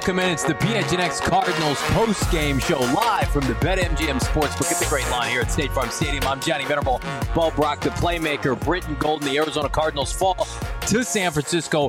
Welcome in. It's the PHNX Cardinals post-game show live from the BetMGM Sportsbook at the Great Lawn here at State Farm Stadium. I'm Johnny Venerable. Bo Brock, the playmaker. Britton Golden, the Arizona Cardinals fall to San Francisco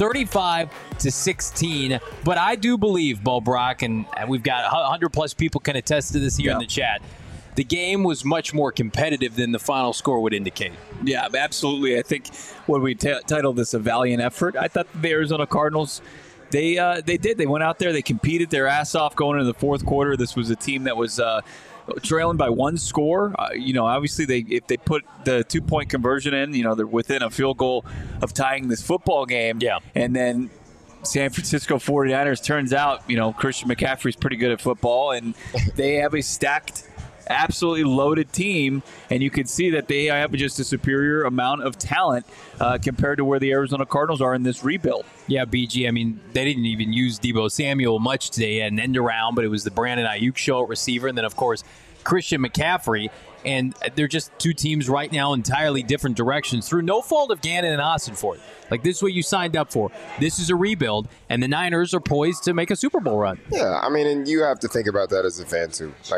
35-16. But I do believe, Bo Brock, and we've got 100-plus people can attest to this here in the chat, the game was much more competitive than the final score would indicate. Yeah, absolutely. I think when we titled this a valiant effort, I thought the Arizona Cardinals, they did. They went out there, they competed their ass off going into the fourth quarter. This was a team that was trailing by one score. Obviously, if they put the 2-point conversion in, they're within a field goal of tying this football game. Yeah. And then San Francisco 49ers, turns out, Christian McCaffrey's pretty good at football, and they have a stacked, absolutely loaded team, and you can see that they have just a superior amount of talent compared to where the Arizona Cardinals are in this rebuild. Yeah, BG, I mean, they didn't even use Deebo Samuel much today. An end around, but it was the Brandon Ayuk show at receiver, and then, of course, Christian McCaffrey. And they're just two teams right now entirely different directions through no fault of Gannon and Ossenfort. Like, this is what you signed up for. This is a rebuild, and the Niners are poised to make a Super Bowl run. Yeah, I mean, and you have to think about that as a fan, too. Like,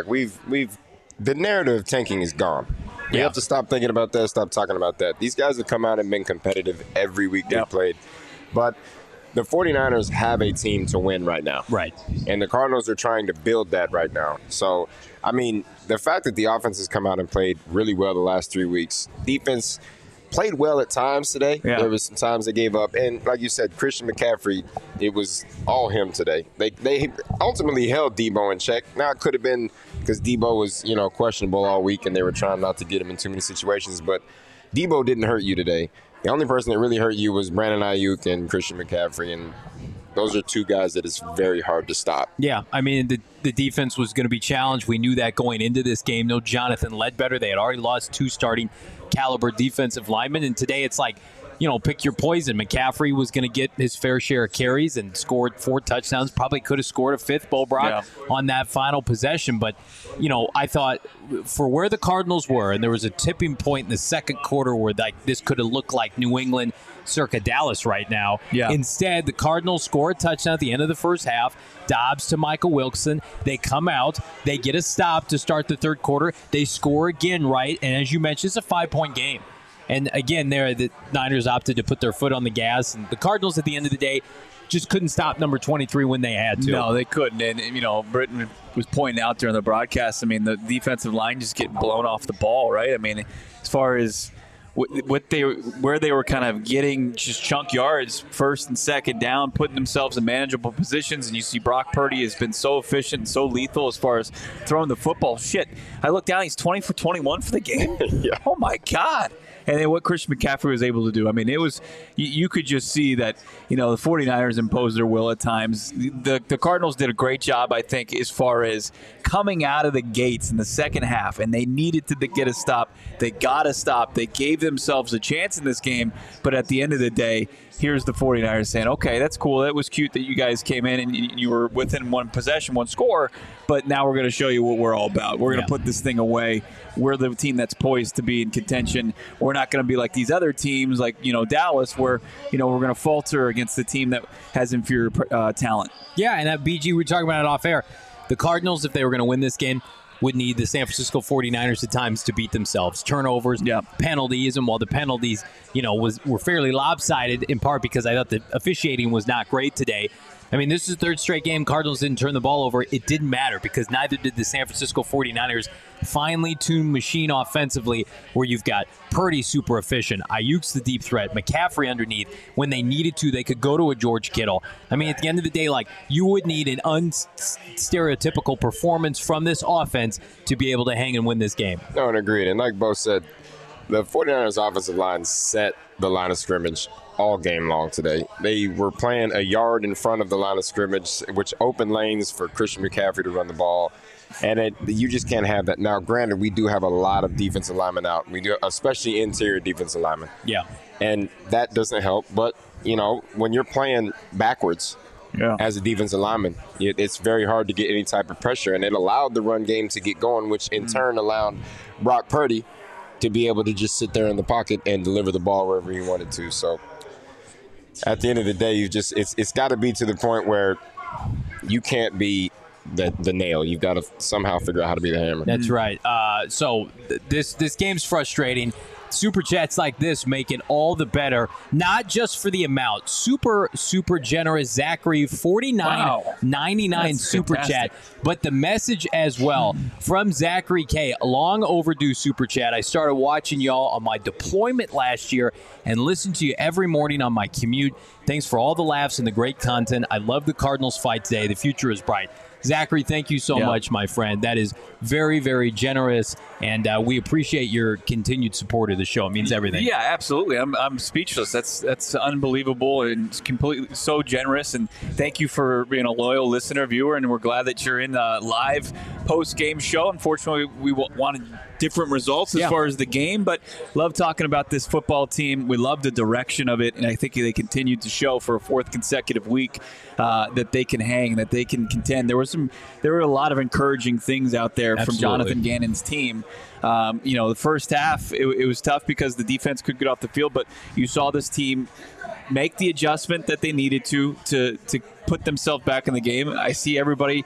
the narrative of tanking is gone. We have to stop thinking about that, stop talking about that. These guys have come out and been competitive every week they've played. But the 49ers have a team to win right now. Right. And the Cardinals are trying to build that right now. So, I mean, the fact that the offense has come out and played really well the last 3 weeks, defense played well at times today. Yeah. There was some times they gave up. And like you said, Christian McCaffrey, it was all him today. They ultimately held Deebo in check. Now, it could have been because Deebo was, questionable all week and they were trying not to get him in too many situations. But Deebo didn't hurt you today. The only person that really hurt you was Brandon Ayuk and Christian McCaffrey. And those are two guys that it's very hard to stop. Yeah, I mean, the defense was going to be challenged. We knew that going into this game. No Jonathan Ledbetter. They had already lost 2 starting caliber defensive linemen. And today it's like, pick your poison. McCaffrey was going to get his fair share of carries and scored 4 touchdowns. Probably could have scored a 5th, Bo Brock, on that final possession. But, I thought for where the Cardinals were, and there was a tipping point in the second quarter where this could have looked like New England circa Dallas right now. Yeah. Instead, the Cardinals score a touchdown at the end of the first half. Dobbs to Michael Wilson. They come out. They get a stop to start the third quarter. They score again, right? And as you mentioned, it's a 5-point game. And again, the Niners opted to put their foot on the gas. And the Cardinals, at the end of the day, just couldn't stop number 23 when they had to. No, they couldn't. And, Britton was pointing out during the broadcast, I mean, the defensive line just getting blown off the ball, right? I mean, as far as where they were kind of getting just chunk yards, first and second down, putting themselves in manageable positions. And you see Brock Purdy has been so efficient and so lethal as far as throwing the football. Shit, I look down, he's 20 for 21 for the game. Yeah. Oh, my God. And then what Christian McCaffrey was able to do. I mean, it was you could just see that, the 49ers imposed their will at times. The Cardinals did a great job, I think, as far as coming out of the gates in the second half, and they needed to get a stop. They got a stop. They gave themselves a chance in this game, but at the end of the day, here's the 49ers saying, okay, that's cool. That was cute that you guys came in and you were within one possession, one score, but now we're going to show you what we're all about. We're going to put this thing away. We're the team that's poised to be in contention. We're not going to be like these other teams like, Dallas, where, we're going to falter against the team that has inferior talent. Yeah, and that BG, we were talking about it off air. The Cardinals, if they were going to win this game, would need the San Francisco 49ers at times to beat themselves. Turnovers, penalties, and while the penalties, were fairly lopsided in part because I thought the officiating was not great today. I mean, this is the third straight game. Cardinals didn't turn the ball over. It didn't matter because neither did the San Francisco 49ers. Finely tuned machine offensively where you've got Purdy super efficient, Ayuk's the deep threat, McCaffrey underneath. When they needed to, they could go to a George Kittle. I mean, at the end of the day, you would need an unstereotypical performance from this offense to be able to hang and win this game. No, and agreed. And like Bo said, the 49ers offensive line set the line of scrimmage all game long today. They were playing a yard in front of the line of scrimmage, which opened lanes for Christian McCaffrey to run the ball. And you just can't have that. Now, granted, we do have a lot of defensive linemen out. We do, especially interior defensive linemen. Yeah. And that doesn't help. But, when you're playing backwards as a defensive lineman, it's very hard to get any type of pressure. And it allowed the run game to get going, which in turn allowed Brock Purdy to be able to just sit there in the pocket and deliver the ball wherever he wanted to. So at the end of the day, it's got to be to the point where you can't be the nail. You've got to somehow figure out how to be the hammer. That's right. So this game's frustrating. Super chats like this make it all the better, not just for the amount. Super generous Zachary, $49.99 super chat, but the message as well from Zachary K. Long overdue super chat. I started watching y'all on my deployment last year and listened to you every morning on my commute. Thanks for all the laughs and the great content. I love the Cardinals fight today. The future is bright. Zachary, thank you so much, my friend. That is very, very generous, and we appreciate your continued support of the show. It means everything. Yeah, absolutely. I'm speechless. That's unbelievable and completely so generous. And thank you for being a loyal listener, viewer, and we're glad that you're in the live post-game show. Unfortunately, we wanted different results as far as the game, but love talking about this football team. We love the direction of it, and I think they continued to show for a fourth consecutive week that they can hang, that they can contend. There were a lot of encouraging things out there from Jonathan Gannon's team. The first half, it was tough because the defense could get off the field, but you saw this team make the adjustment that they needed to put themselves back in the game. I see everybody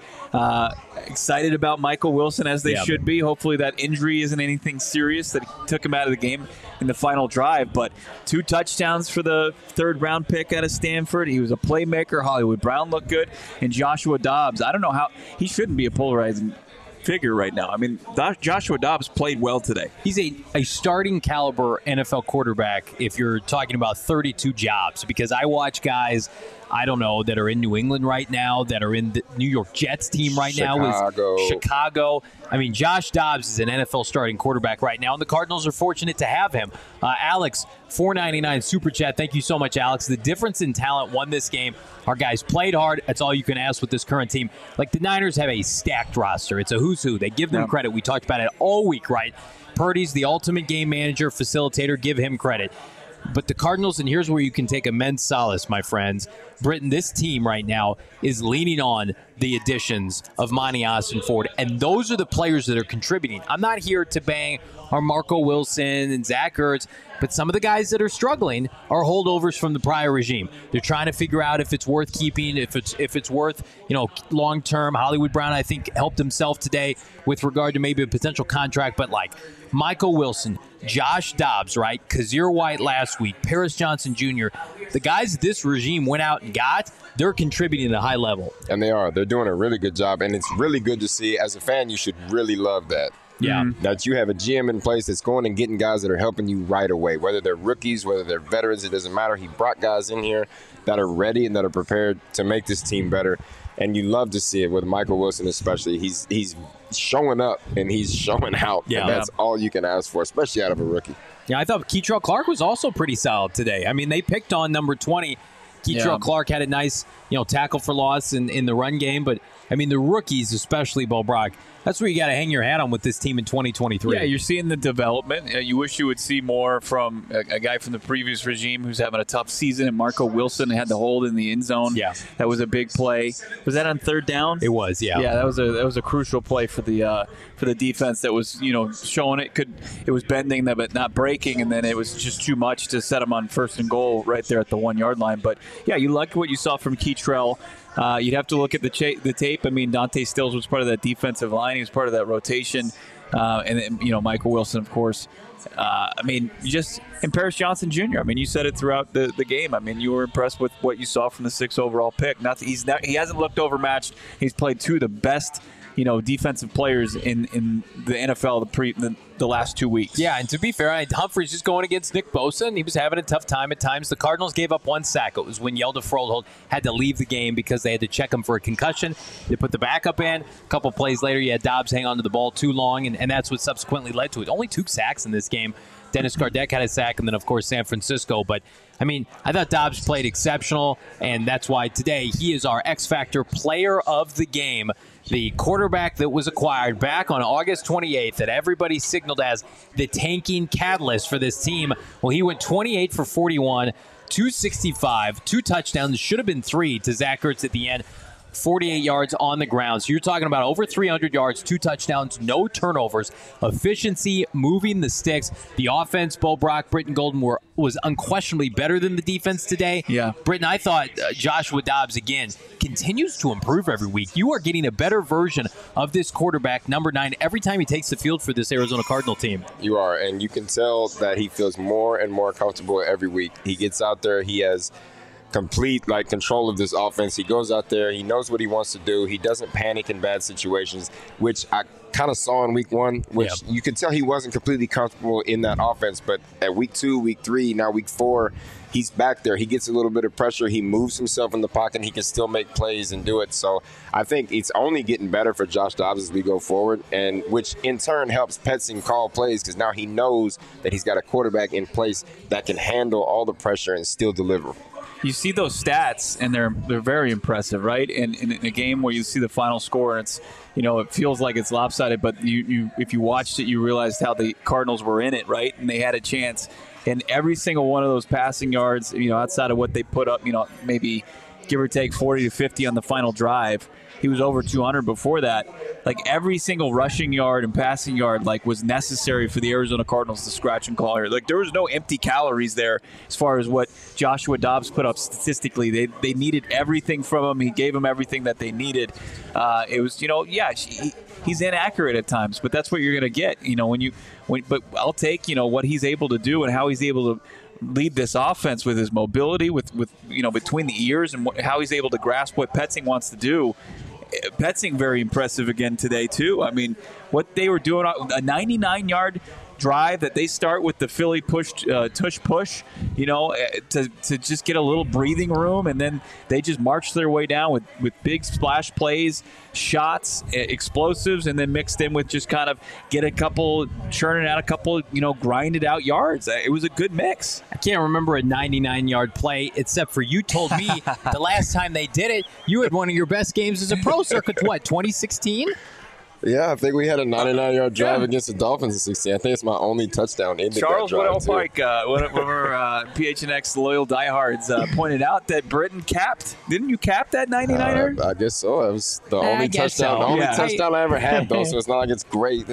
excited about Michael Wilson, as they should be. Hopefully that injury isn't anything serious that took him out of the game in the final drive. But 2 touchdowns for the third-round pick out of Stanford. He was a playmaker. Hollywood Brown looked good. And Joshua Dobbs, I don't know how – he shouldn't be a polarizing figure right now. I mean, Joshua Dobbs played well today. He's a starting caliber NFL quarterback if you're talking about 32 jobs, because I watch guys, I don't know, that are in New England right now, that are in the New York Jets team right now with Chicago. I mean, Josh Dobbs is an NFL starting quarterback right now, and the Cardinals are fortunate to have him. Alex, $4.99 super chat. Thank you so much, Alex. The difference in talent won this game. Our guys played hard. That's all you can ask with this current team. Like, the Niners have a stacked roster. It's a who's who. They give them credit. We talked about it all week, right? Purdy's the ultimate game manager, facilitator. Give him credit. But the Cardinals, and here's where you can take immense solace, my friends. Britton, this team right now is leaning on the additions of Monty Ossenford, and those are the players that are contributing. I'm not here to bang our Marco Wilson and Zach Ertz, but some of the guys that are struggling are holdovers from the prior regime. They're trying to figure out if it's worth keeping, if it's worth, long term. Hollywood Brown, I think, helped himself today with regard to maybe a potential contract, but like Michael Wilson, Josh Dobbs, right? Kazir White last week, Paris Johnson Jr., the guys this regime went out and got, they're contributing at a high level. And they are. They're doing a really good job, and it's really good to see. As a fan, you should really love that. Yeah. That you have a GM in place that's going and getting guys that are helping you right away, whether they're rookies, whether they're veterans, it doesn't matter. He brought guys in here that are ready and that are prepared to make this team better. And you love to see it with Michael Wilson especially. He's showing up and he's showing out. Yeah. And that's all you can ask for, especially out of a rookie. Yeah, I thought Keitrell Clark was also pretty solid today. I mean, they picked on number 20. Keitrell Clark had a nice, tackle for loss in the run game. But, I mean, the rookies, especially Bo Brock, that's where you got to hang your hat on with this team in 2023. Yeah, you're seeing the development. You wish you would see more from a guy from the previous regime who's having a tough season. And Marco Wilson had the hold in the end zone. Yeah, that was a big play. Was that on third down? It was. Yeah. Yeah, that was a crucial play for the defense. That was showing it was bending but not breaking, and then it was just too much to set them on 1st and goal right there at the 1 yard line. But yeah, you like what you saw from Keitrell. You'd have to look at the tape. I mean, Dante Stills was part of that defensive line. He was part of that rotation. And then, Michael Wilson, of course. And Paris Johnson Jr. I mean, you said it throughout the game. I mean, you were impressed with what you saw from the 6th overall pick. He hasn't looked overmatched. He's played 2 of the best, defensive players in the NFL the last 2 weeks. Yeah, and to be fair, Humphrey's just going against Nick Bosa, and he was having a tough time at times. The Cardinals gave up 1 sack. It was when Yelda Froholt had to leave the game because they had to check him for a concussion. They put the backup in. A couple plays later, you had Dobbs hang on to the ball too long, and that's what subsequently led to it. Only 2 sacks in this game. Dennis Gardeck had a sack, and then, of course, San Francisco. But, I mean, I thought Dobbs played exceptional, and that's why today he is our X-Factor player of the game. The quarterback that was acquired back on August 28th that everybody signaled as the tanking catalyst for this team. Well, he went 28 for 41, 265, 2 touchdowns, should have been 3 to Zach Ertz at the end. 48 yards on the ground. So you're talking about over 300 yards, 2 touchdowns, no turnovers, efficiency, moving the sticks. The offense, Bo Brock, Britton Golden was unquestionably better than the defense today. Yeah. Britton, I thought Joshua Dobbs, again, continues to improve every week. You are getting a better version of this quarterback, number 9, every time he takes the field for this Arizona Cardinal team. You are, and you can tell that he feels more and more comfortable every week. He gets out there, he has complete control of this offense. He goes out there, he knows what he wants to do. He doesn't panic in bad situations, which I kind of saw in week 1, which you could tell he wasn't completely comfortable in that offense. But at week 2, week 3, now week 4, he's back there. He gets a little bit of pressure. He moves himself in the pocket. And he can still make plays and do it. So I think it's only getting better for Josh Dobbs as we go forward, and which in turn helps Petzing call plays because now he knows that he's got a quarterback in place that can handle all the pressure and still deliver. You see those stats, and they're very impressive, right? And in a game where you see the final score, and it's it feels like it's lopsided, but you if you watched it, you realized how the Cardinals were in it, right? And they had a chance. And every single one of those passing yards, outside of what they put up, maybe give or take 40 to 50 on the final drive. He was over 200 before that. Every single rushing yard and passing yard was necessary for the Arizona Cardinals to scratch and claw here. There was no empty calories there as far as what Joshua Dobbs put up statistically. They needed everything from him. He gave them everything that they needed. It was, he's inaccurate at times, but that's what you're going to get. But I'll take what he's able to do and how he's able to lead this offense with his mobility, with between the ears, and how he's able to grasp what Petzing wants to do. Petzing very impressive again today too. I mean, what they were doing, a 99-yard drive that they start with the Philly tush push, to just get a little breathing room, and then they just march their way down with big splash plays, shots, explosives, and then mixed in with just kind of churning out a couple, grinded out yards. It was a good mix. I can't remember a 99-yard play, except for you told me the last time they did it, you had one of your best games as a pro circuit, 2016? Yeah, I think we had a 99-yard drive against the Dolphins in 16. I think it's my only touchdown in the drive. Charles Woodell Pike, one of our PHNX loyal diehards, pointed out that Britton capped. Didn't you cap that 99er? I guess so. It was the only touchdown. The only touchdown I ever had, though. So it's not like it's great.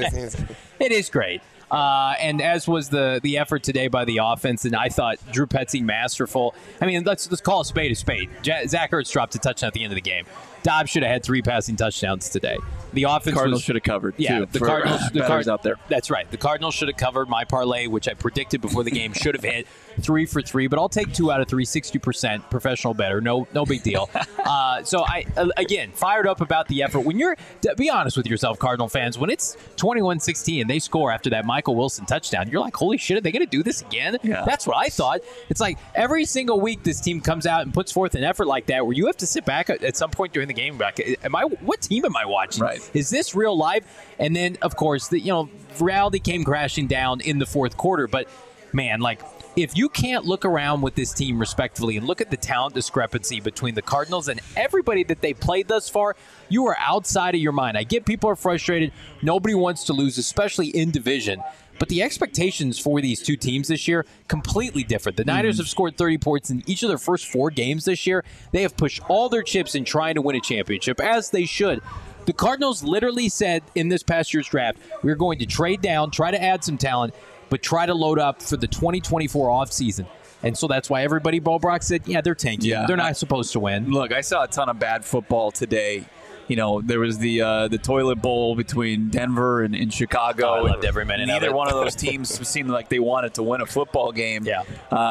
It is great. And as was the effort today by the offense, and I thought Drew Petzing masterful. I mean, let's call a spade a spade. Zach Ertz dropped a touchdown at the end of the game. Dobbs should have had 3 passing touchdowns today. The offense Cardinals should have covered. Yeah, too, the Cardinals out there. That's right. The Cardinals should have covered. My parlay, which I predicted before the game, should have hit 3 for 3. But I'll take 2 out of 3, 60% professional better. No big deal. So I again fired up about the effort. When be honest with yourself, Cardinal fans, when it's 21-16 and they score after that Michael Wilson touchdown, you're like, holy shit, are they going to do this again? Yeah. That's what I thought. It's like every single week this team comes out and puts forth an effort like that, where you have to sit back at some point during the game. What team am I watching? Right. Is this real life? And then, of course, reality came crashing down in the fourth quarter. But, man, if you can't look around with this team respectively and look at the talent discrepancy between the Cardinals and everybody that they played thus far, you are outside of your mind. I get people are frustrated. Nobody wants to lose, especially in division. But the expectations for these two teams this year, completely different. The Niners have scored 30 points in each of their first 4 games this year. They have pushed all their chips in trying to win a championship, as they should. The Cardinals literally said in this past year's draft, we're going to trade down, try to add some talent, but try to load up for the 2024 offseason. And so that's why everybody, Bo Brock said, they're tanking. Yeah. They're not supposed to win. Look, I saw a ton of bad football today. There was the toilet bowl between Denver and Chicago. I loved every minute of it. Neither one of those teams seemed like they wanted to win a football game. Yeah.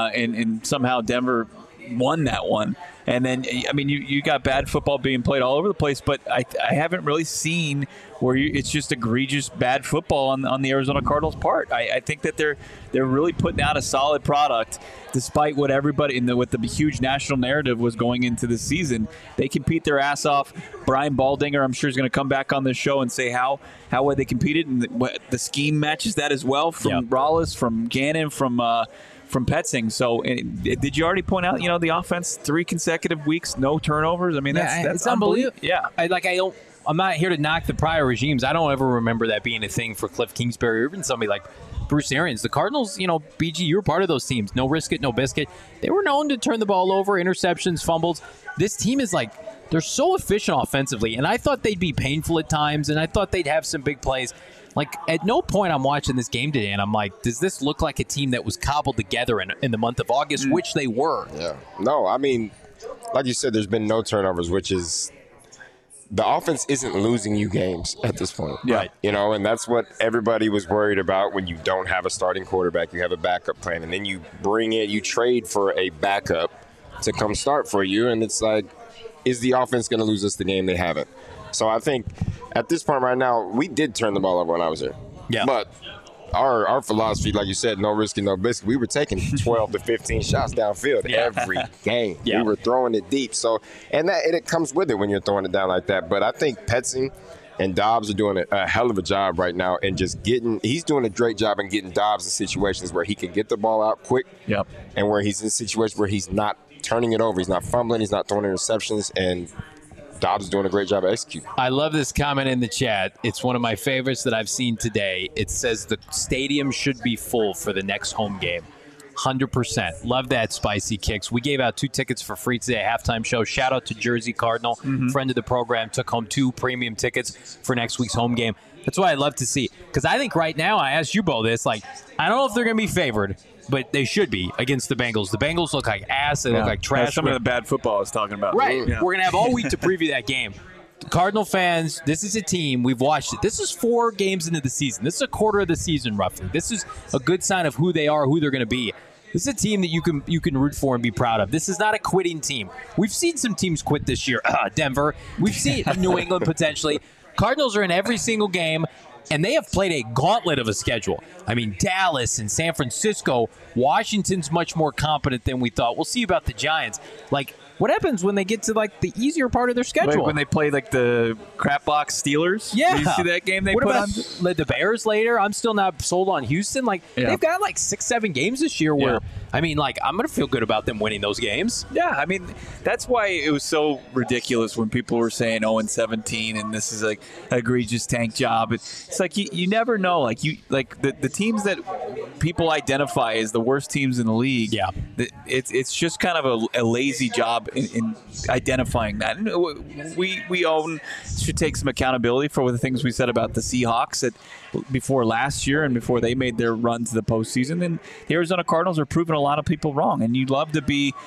And somehow Denver won that one. And then, you got bad football being played all over the place, but I haven't really seen where it's just egregious bad football on the Arizona Cardinals' part. I think that they're really putting out a solid product, despite what everybody what the huge national narrative was going into the season. They compete their ass off. Brian Baldinger, I'm sure, is going to come back on this show and say how well they competed, and the scheme matches that as well from Rallis, from Gannon, from Petzing. So, did you already point out, the offense, 3 consecutive weeks, no turnovers? I mean, that's unbelievable. Yeah. I'm not here to knock the prior regimes. I don't ever remember that being a thing for Cliff Kingsbury or even somebody like Bruce Arians. The Cardinals, BG, you were part of those teams. No risk it, no biscuit. They were known to turn the ball over, interceptions, fumbles. This team is they're so efficient offensively, and I thought they'd be painful at times, and I thought they'd have some big plays. Like, at no point I'm watching this game today, and I'm like, does this look like a team that was cobbled together in the month of August, which they were? Yeah. No, I mean, like you said, there's been no turnovers, which is the offense isn't losing you games at this point. Right. You know, and that's what everybody was worried about when you don't have a starting quarterback. You have a backup plan, and then you you trade for a backup to come start for you, and it's like, is the offense going to lose us the game? They haven't. So I think at this point right now, we did turn the ball over when I was there. Yeah. But our philosophy, like you said, no risky, no biscuit. We were taking 12 to 15 shots downfield every game. Yeah. We were throwing it deep. So, and it comes with it when you're throwing it down like that. But I think Petzing and Dobbs are doing a hell of a job right now, and just he's doing a great job in getting Dobbs in situations where he can get the ball out quick. Yep. And where he's in situations where he's not turning it over, he's not fumbling, he's not throwing interceptions, and Dobbs is doing a great job of executing. I love this comment in the chat. It's one of my favorites that I've seen today. It says the stadium should be full for the next home game. 100%. Love that, Spicy Kicks. We gave out 2 tickets for free today at halftime show. Shout out to Jersey Cardinal, friend of the program, took home 2 premium tickets for next week's home game. That's what I love to see. Because I think right now, I asked you, Bo, this, like, I don't know if they're going to be favored, but they should be against the Bengals. The Bengals look like ass. They look like trash. That's some of the bad football I was talking about. Right. Yeah. We're going to have all week to preview that game. Cardinal fans, this is a team, we've watched it. This is 4 games into the season. This is a quarter of the season, roughly. This is a good sign of who they are, who they're going to be. This is a team that you can root for and be proud of. This is not a quitting team. We've seen some teams quit this year. Denver. We've seen New England potentially. Cardinals are in every single game, and they have played a gauntlet of a schedule. I mean, Dallas and San Francisco. Washington's much more competent than we thought. We'll see about the Giants. Like, what happens when they get to, like, the easier part of their schedule? Like when they play, like, the crap box Steelers? Yeah. Did you see that game they what put about on? The Bears later? I'm still not sold on Houston. Like, they've got, like, 6-7 games this year where, I mean, like, I'm going to feel good about them winning those games. Yeah, I mean, that's why it was so ridiculous when people were saying 0-17 and this is, like, an egregious tank job. It's like you never know. Like, the teams that people identify as the worst teams in the league, it's just kind of a lazy job in identifying that. And we should take some accountability for the things we said about the Seahawks before last year and before they made their run to the postseason. And the Arizona Cardinals are proving a lot of people wrong. And you'd love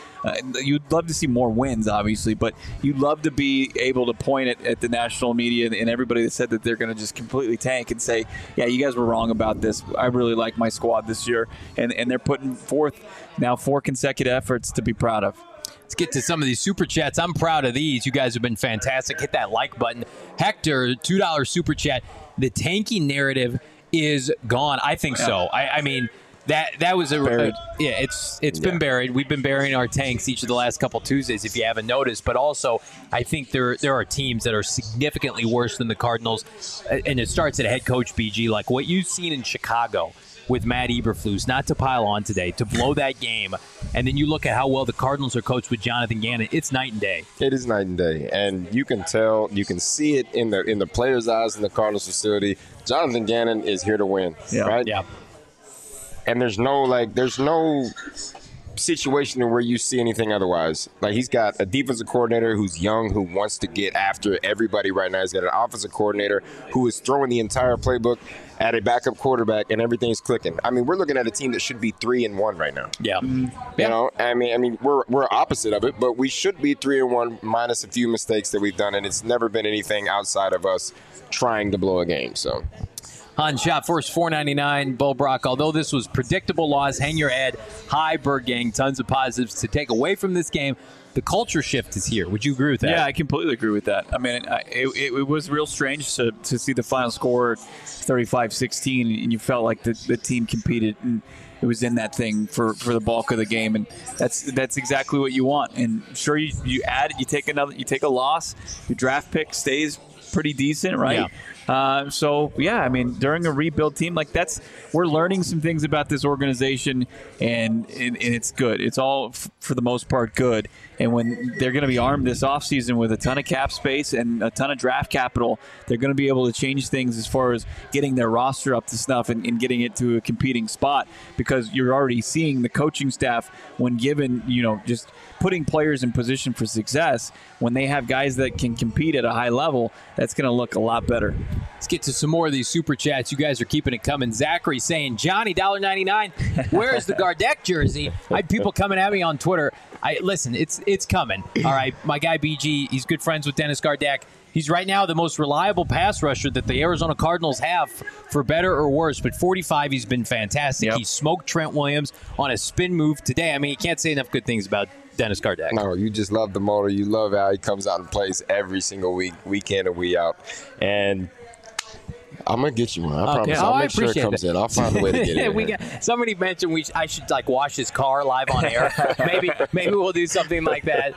to see more wins, obviously, but you'd love to be able to point at the national media and everybody that said that they're going to just completely tank and say, yeah, you guys were wrong about this. I really like my squad this year. And they're putting forth now 4 consecutive efforts to be proud of. Let's get to some of these super chats. I'm proud of these. You guys have been fantastic. Hit that like button. Hector, $2 super chat. The tanking narrative is gone. I think so. I mean, that was buried. It's been buried. We've been burying our tanks each of the last couple Tuesdays, if you haven't noticed. But also, I think there are teams that are significantly worse than the Cardinals, and it starts at head coach BG. Like what you've seen in Chicago with Matt Eberflus, not to pile on today, to blow that game. And then you look at how well the Cardinals are coached with Jonathan Gannon. It's night and day. It is night and day. And you can tell, you can see it in the players' eyes in the Cardinals facility. Jonathan Gannon is here to win, right? Yeah. And there's no situation where you see anything otherwise. Like, he's got a defensive coordinator who's young, who wants to get after everybody right now. He's got an offensive coordinator who is throwing the entire playbook at a backup quarterback, and everything's clicking. I mean, we're looking at a team that should be 3-1 right now. Yeah. You know, I mean, we're opposite of it, but we should be 3-1 minus a few mistakes that we've done, and it's never been anything outside of us trying to blow a game. So. On shot first, $4.99. Bo Brock, although this was predictable loss, hang your head high, Bird Gang. Tons of positives to take away from this game. The culture shift is here. Would you agree with that? Yeah, I completely agree with that. I mean, it was real strange to see the final score 35-16, and you felt like the team competed and it was in that thing for the bulk of the game, and that's exactly what you want. And sure, you take a loss, your draft pick stays pretty decent, right? I mean, during a rebuild team like we're learning some things about this organization, and it's good. It's all for the most part good. And when they're going to be armed this offseason with a ton of cap space and a ton of draft capital, they're going to be able to change things as far as getting their roster up to snuff and getting it to a competing spot, because you're already seeing the coaching staff, when given, just putting players in position for success, when they have guys that can compete at a high level, that's going to look a lot better. Let's get to some more of these super chats. You guys are keeping it coming. Zachary saying, Johnny, $1.99. Where's the Gardeck jersey? I had people coming at me on Twitter. Listen, it's coming. All right, my guy BG, he's good friends with Dennis Gardeck. He's right now the most reliable pass rusher that the Arizona Cardinals have, for better or worse. But 45, he's been fantastic. Yep. He smoked Trent Williams on a spin move today. I mean, you can't say enough good things about Dennis Gardeck. No, you just love the motor. You love how he comes out and plays every single week, week in and week out. And I'm going to get you one. I promise. I'll make sure it comes in. I'll find a way to get it. Somebody mentioned I should wash his car live on air. Maybe we'll do something like that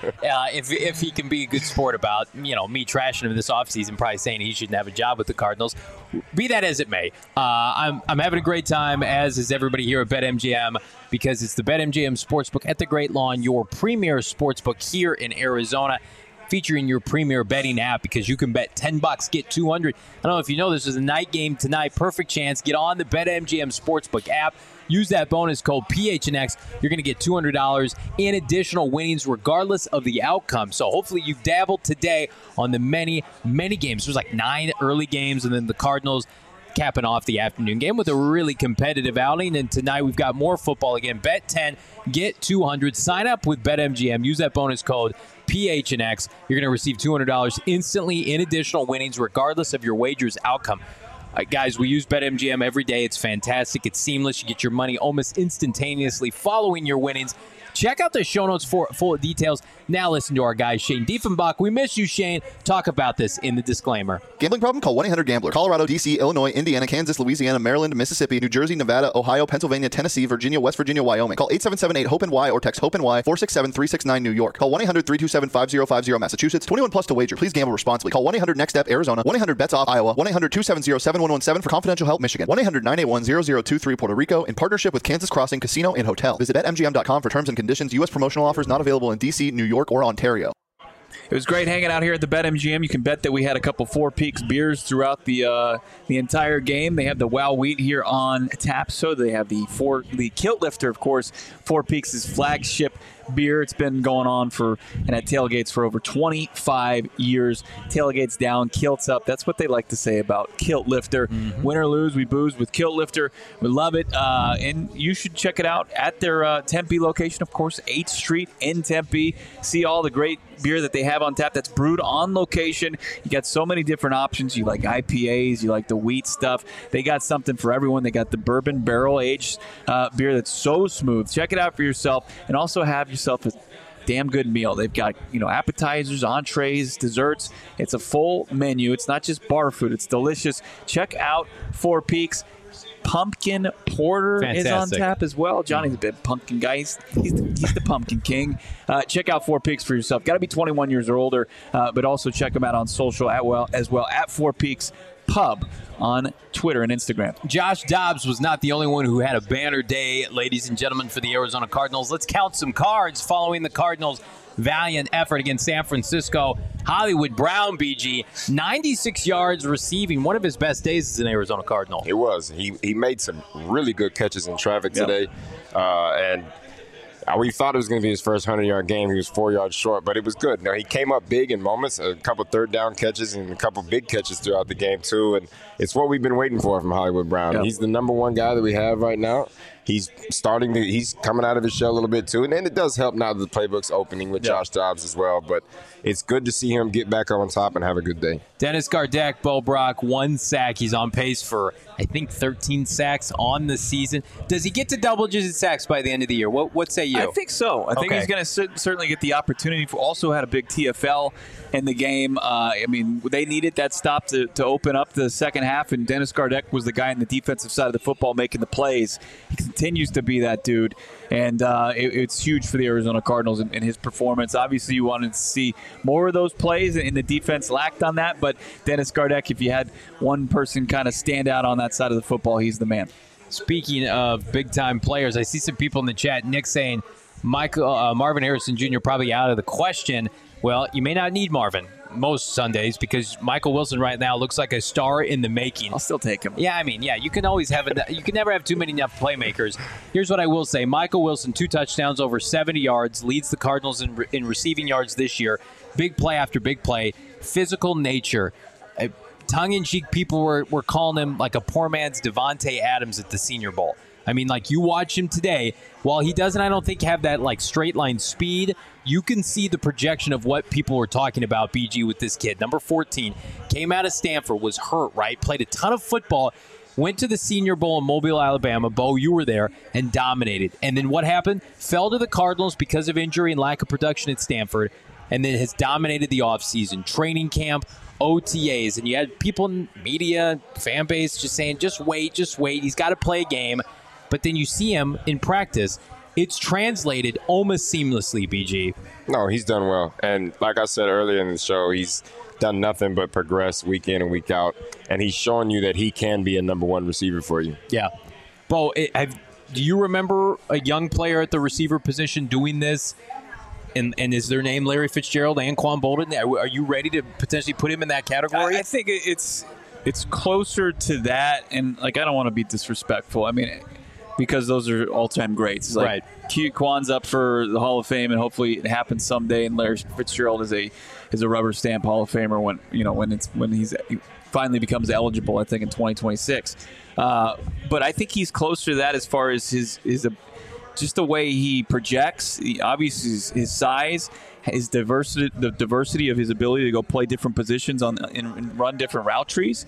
if he can be a good sport about me trashing him this offseason, probably saying he shouldn't have a job with the Cardinals. Be that as it may, I'm having a great time, as is everybody here at BetMGM, because it's the BetMGM Sportsbook at the Great Lawn, your premier sportsbook here in Arizona, featuring your premier betting app, because you can bet $10, get $200. I don't know if you know, this is a night game tonight. Perfect chance. Get on the BetMGM Sportsbook app. Use that bonus code PHNX. You're going to get $200 in additional winnings regardless of the outcome. So hopefully you've dabbled today on the many, many games. There's 9 early games, and then the Cardinals capping off the afternoon game with a really competitive outing. And tonight we've got more football again. Bet 10, get 200. Sign up with BetMGM. Use that bonus code PHNX. You're going to receive $200 instantly in additional winnings regardless of your wager's outcome. Guys, we use BetMGM every day. It's fantastic. It's seamless. You get your money almost instantaneously following your winnings. Check out the show notes for full details. Now listen to our guy, Shane Diefenbach. We miss you, Shane. Talk about this in the disclaimer. Gambling problem? Call 1-800-GAMBLER. Colorado, D.C., Illinois, Indiana, Kansas, Louisiana, Maryland, Mississippi, New Jersey, Nevada, Ohio, Pennsylvania, Tennessee, Virginia, West Virginia, Wyoming. Call 877-8-HOPE-NY or text HOPE-NY 467-369 New York. Call 1-800-327-5050 Massachusetts. 21 plus to wager. Please gamble responsibly. Call 1-800-NEXT-STEP Arizona. 1-800-BETS-OFF Iowa. 1-800-270-7117 for confidential help Michigan. 1-800-981-0023 Puerto Rico in partnership with Kansas Crossing Casino and Hotel. Visit BetMGM.com for terms and conditions. U.S. promotional offers not available in D.C., New York, or Ontario. It was great hanging out here at the BetMGM. You can bet that we had a couple Four Peaks beers throughout the entire game. They have the Wow Wheat here on tap. So they have the Kilt Lifter, of course. Four Peaks' flagship beer. It's been going on at tailgates for over 25 years. Tailgates down, kilts up. That's what they like to say about Kilt Lifter. Mm-hmm. Win or lose, we booze with Kilt Lifter. We love it. And you should check it out at their Tempe location, of course, 8th Street in Tempe. See all the great beer that they have on tap that's brewed on location. You got so many different options. You like IPAs, you like the wheat stuff. They got something for everyone. They got the bourbon barrel-aged beer that's so smooth. Check it out for yourself, and also have yourself a damn good meal. They've got, appetizers, entrees, desserts. It's a full menu. It's not just bar food. It's delicious. Check out Four Peaks. Pumpkin Porter Fantastic. Is on tap as well. Johnny's a bit pumpkin guy. He's the pumpkin king. Check out Four Peaks for yourself. Got to be 21 years or older, but also check them out on social as well at Four Peaks Pub on Twitter and Instagram. Josh Dobbs was not the only one who had a banner day, ladies and gentlemen, for the Arizona Cardinals. Let's count some cards following the Cardinals' valiant effort against San Francisco. Hollywood Brown, BG, 96 yards receiving. One of his best days as an Arizona Cardinal. It was. He made some really good catches in traffic today. And we thought it was going to be his first 100-yard game. He was 4 yards short, but it was good. Now, he came up big in moments, a couple third-down catches and a couple big catches throughout the game, too. And it's what we've been waiting for from Hollywood Brown. Yep. He's the number one guy that we have right now. He's coming out of his shell a little bit, too. And then it does help now that the playbook's opening with Josh Dobbs as well. But it's good to see him get back on top and have a good day. Dennis Gardeck, Bo Brock, 1 sack. He's on pace for I think 13 sacks on the season. Does he get to double-digit sacks by the end of the year? What say you? I think so. I think he's going to certainly get the opportunity. Also had a big TFL in the game. I mean, they needed that stop to open up the second half, and Dennis Gardeck was the guy on the defensive side of the football making the plays. He continues to be that dude, and it's huge for the Arizona Cardinals and his performance. Obviously, you wanted to see more of those plays, and the defense lacked on that, but Dennis Gardeck, if you had one person kind of stand out on that side of the football, he's the man. Speaking of big-time players, I see some people in the chat, Nick saying Marvin Harrison Jr. probably out of the question. Well, you may not need Marvin most Sundays because Michael Wilson right now looks like a star in the making. I'll still take him. Yeah, I mean, you can always have you can never have too many enough playmakers. Here's what I will say. Michael Wilson, 2 touchdowns, over 70 yards, leads the Cardinals in receiving yards this year. Big play after big play. Physical nature. Tongue-in-cheek, people were calling him like a poor man's Devontae Adams at the Senior Bowl. I mean, like, you watch him today, while he doesn't, I don't think, have that, like, straight-line speed, you can see the projection of what people were talking about, BG, with this kid. Number 14, came out of Stanford, was hurt, right? Played a ton of football, went to the Senior Bowl in Mobile, Alabama. Bo, you were there, and dominated. And then what happened? Fell to the Cardinals because of injury and lack of production at Stanford, and then has dominated the offseason. Training camp, OTAs, and you had people in media, fan base just saying, just wait. He's got to play a game. But then you see him in practice. It's translated almost seamlessly, BG. No, he's done well. And like I said earlier in the show, he's done nothing but progress week in and week out. And he's showing you that he can be a number 1 receiver for you. Yeah. Bo, do you remember a young player at the receiver position doing this? And is their name Larry Fitzgerald, Anquan Bolden? Are you ready to potentially put him in that category? I think it's closer to that. And, like, I don't want to be disrespectful. I mean, because those are all-time greats. Like, right. Quan's up for the Hall of Fame, and hopefully it happens someday. And Larry Fitzgerald is a rubber stamp Hall of Famer when he finally becomes eligible. I think in 2026. But I think he's closer to that as far as his just the way he projects. Obviously, his size, his diversity, the diversity of his ability to go play different positions and run different route trees.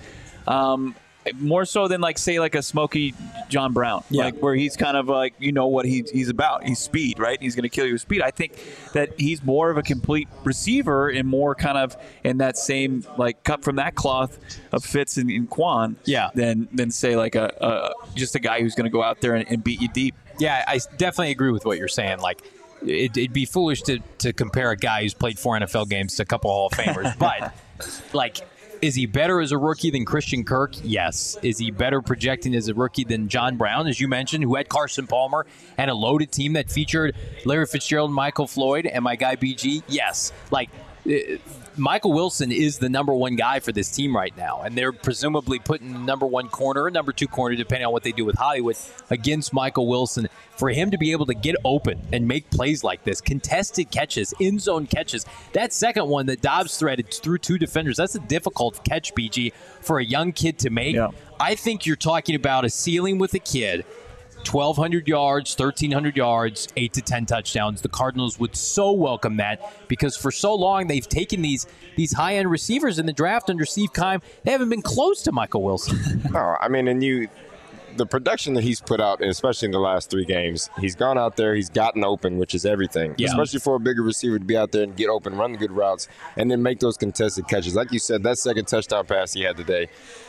More so than, like, say, like a Smokey John Brown, like, where he's kind of like, what he's about. He's speed, right? He's going to kill you with speed. I think that he's more of a complete receiver and more kind of in that same, like, cut from that cloth of Fitz and Quan, than say, like, just a guy who's going to go out there and beat you deep. Yeah, I definitely agree with what you're saying. Like, it'd be foolish to compare a guy who's played 4 NFL games to a couple Hall of Famers, but, like, is he better as a rookie than Christian Kirk? Yes. Is he better projecting as a rookie than John Brown, as you mentioned, who had Carson Palmer and a loaded team that featured Larry Fitzgerald and Michael Floyd and my guy BG? Yes. Like, Michael Wilson is the number 1 guy for this team right now, and they're presumably putting the number 1 corner or number 2 corner, depending on what they do with Hollywood, against Michael Wilson. For him to be able to get open and make plays like this, contested catches, in-zone catches, that second one that Dobbs threaded through 2 defenders, that's a difficult catch, BG, for a young kid to make. Yeah. I think you're talking about a ceiling with a kid. 1,200 yards, 1,300 yards, 8 to 10 touchdowns. The Cardinals would so welcome that because for so long they've taken these high-end receivers in the draft under Steve Keim. They haven't been close to Michael Wilson. No, I mean, the production that he's put out, especially in the last 3 games, he's gone out there, he's gotten open, which is everything. Yeah. Especially for a bigger receiver to be out there and get open, run the good routes, and then make those contested catches. Like you said, that second touchdown pass he had today,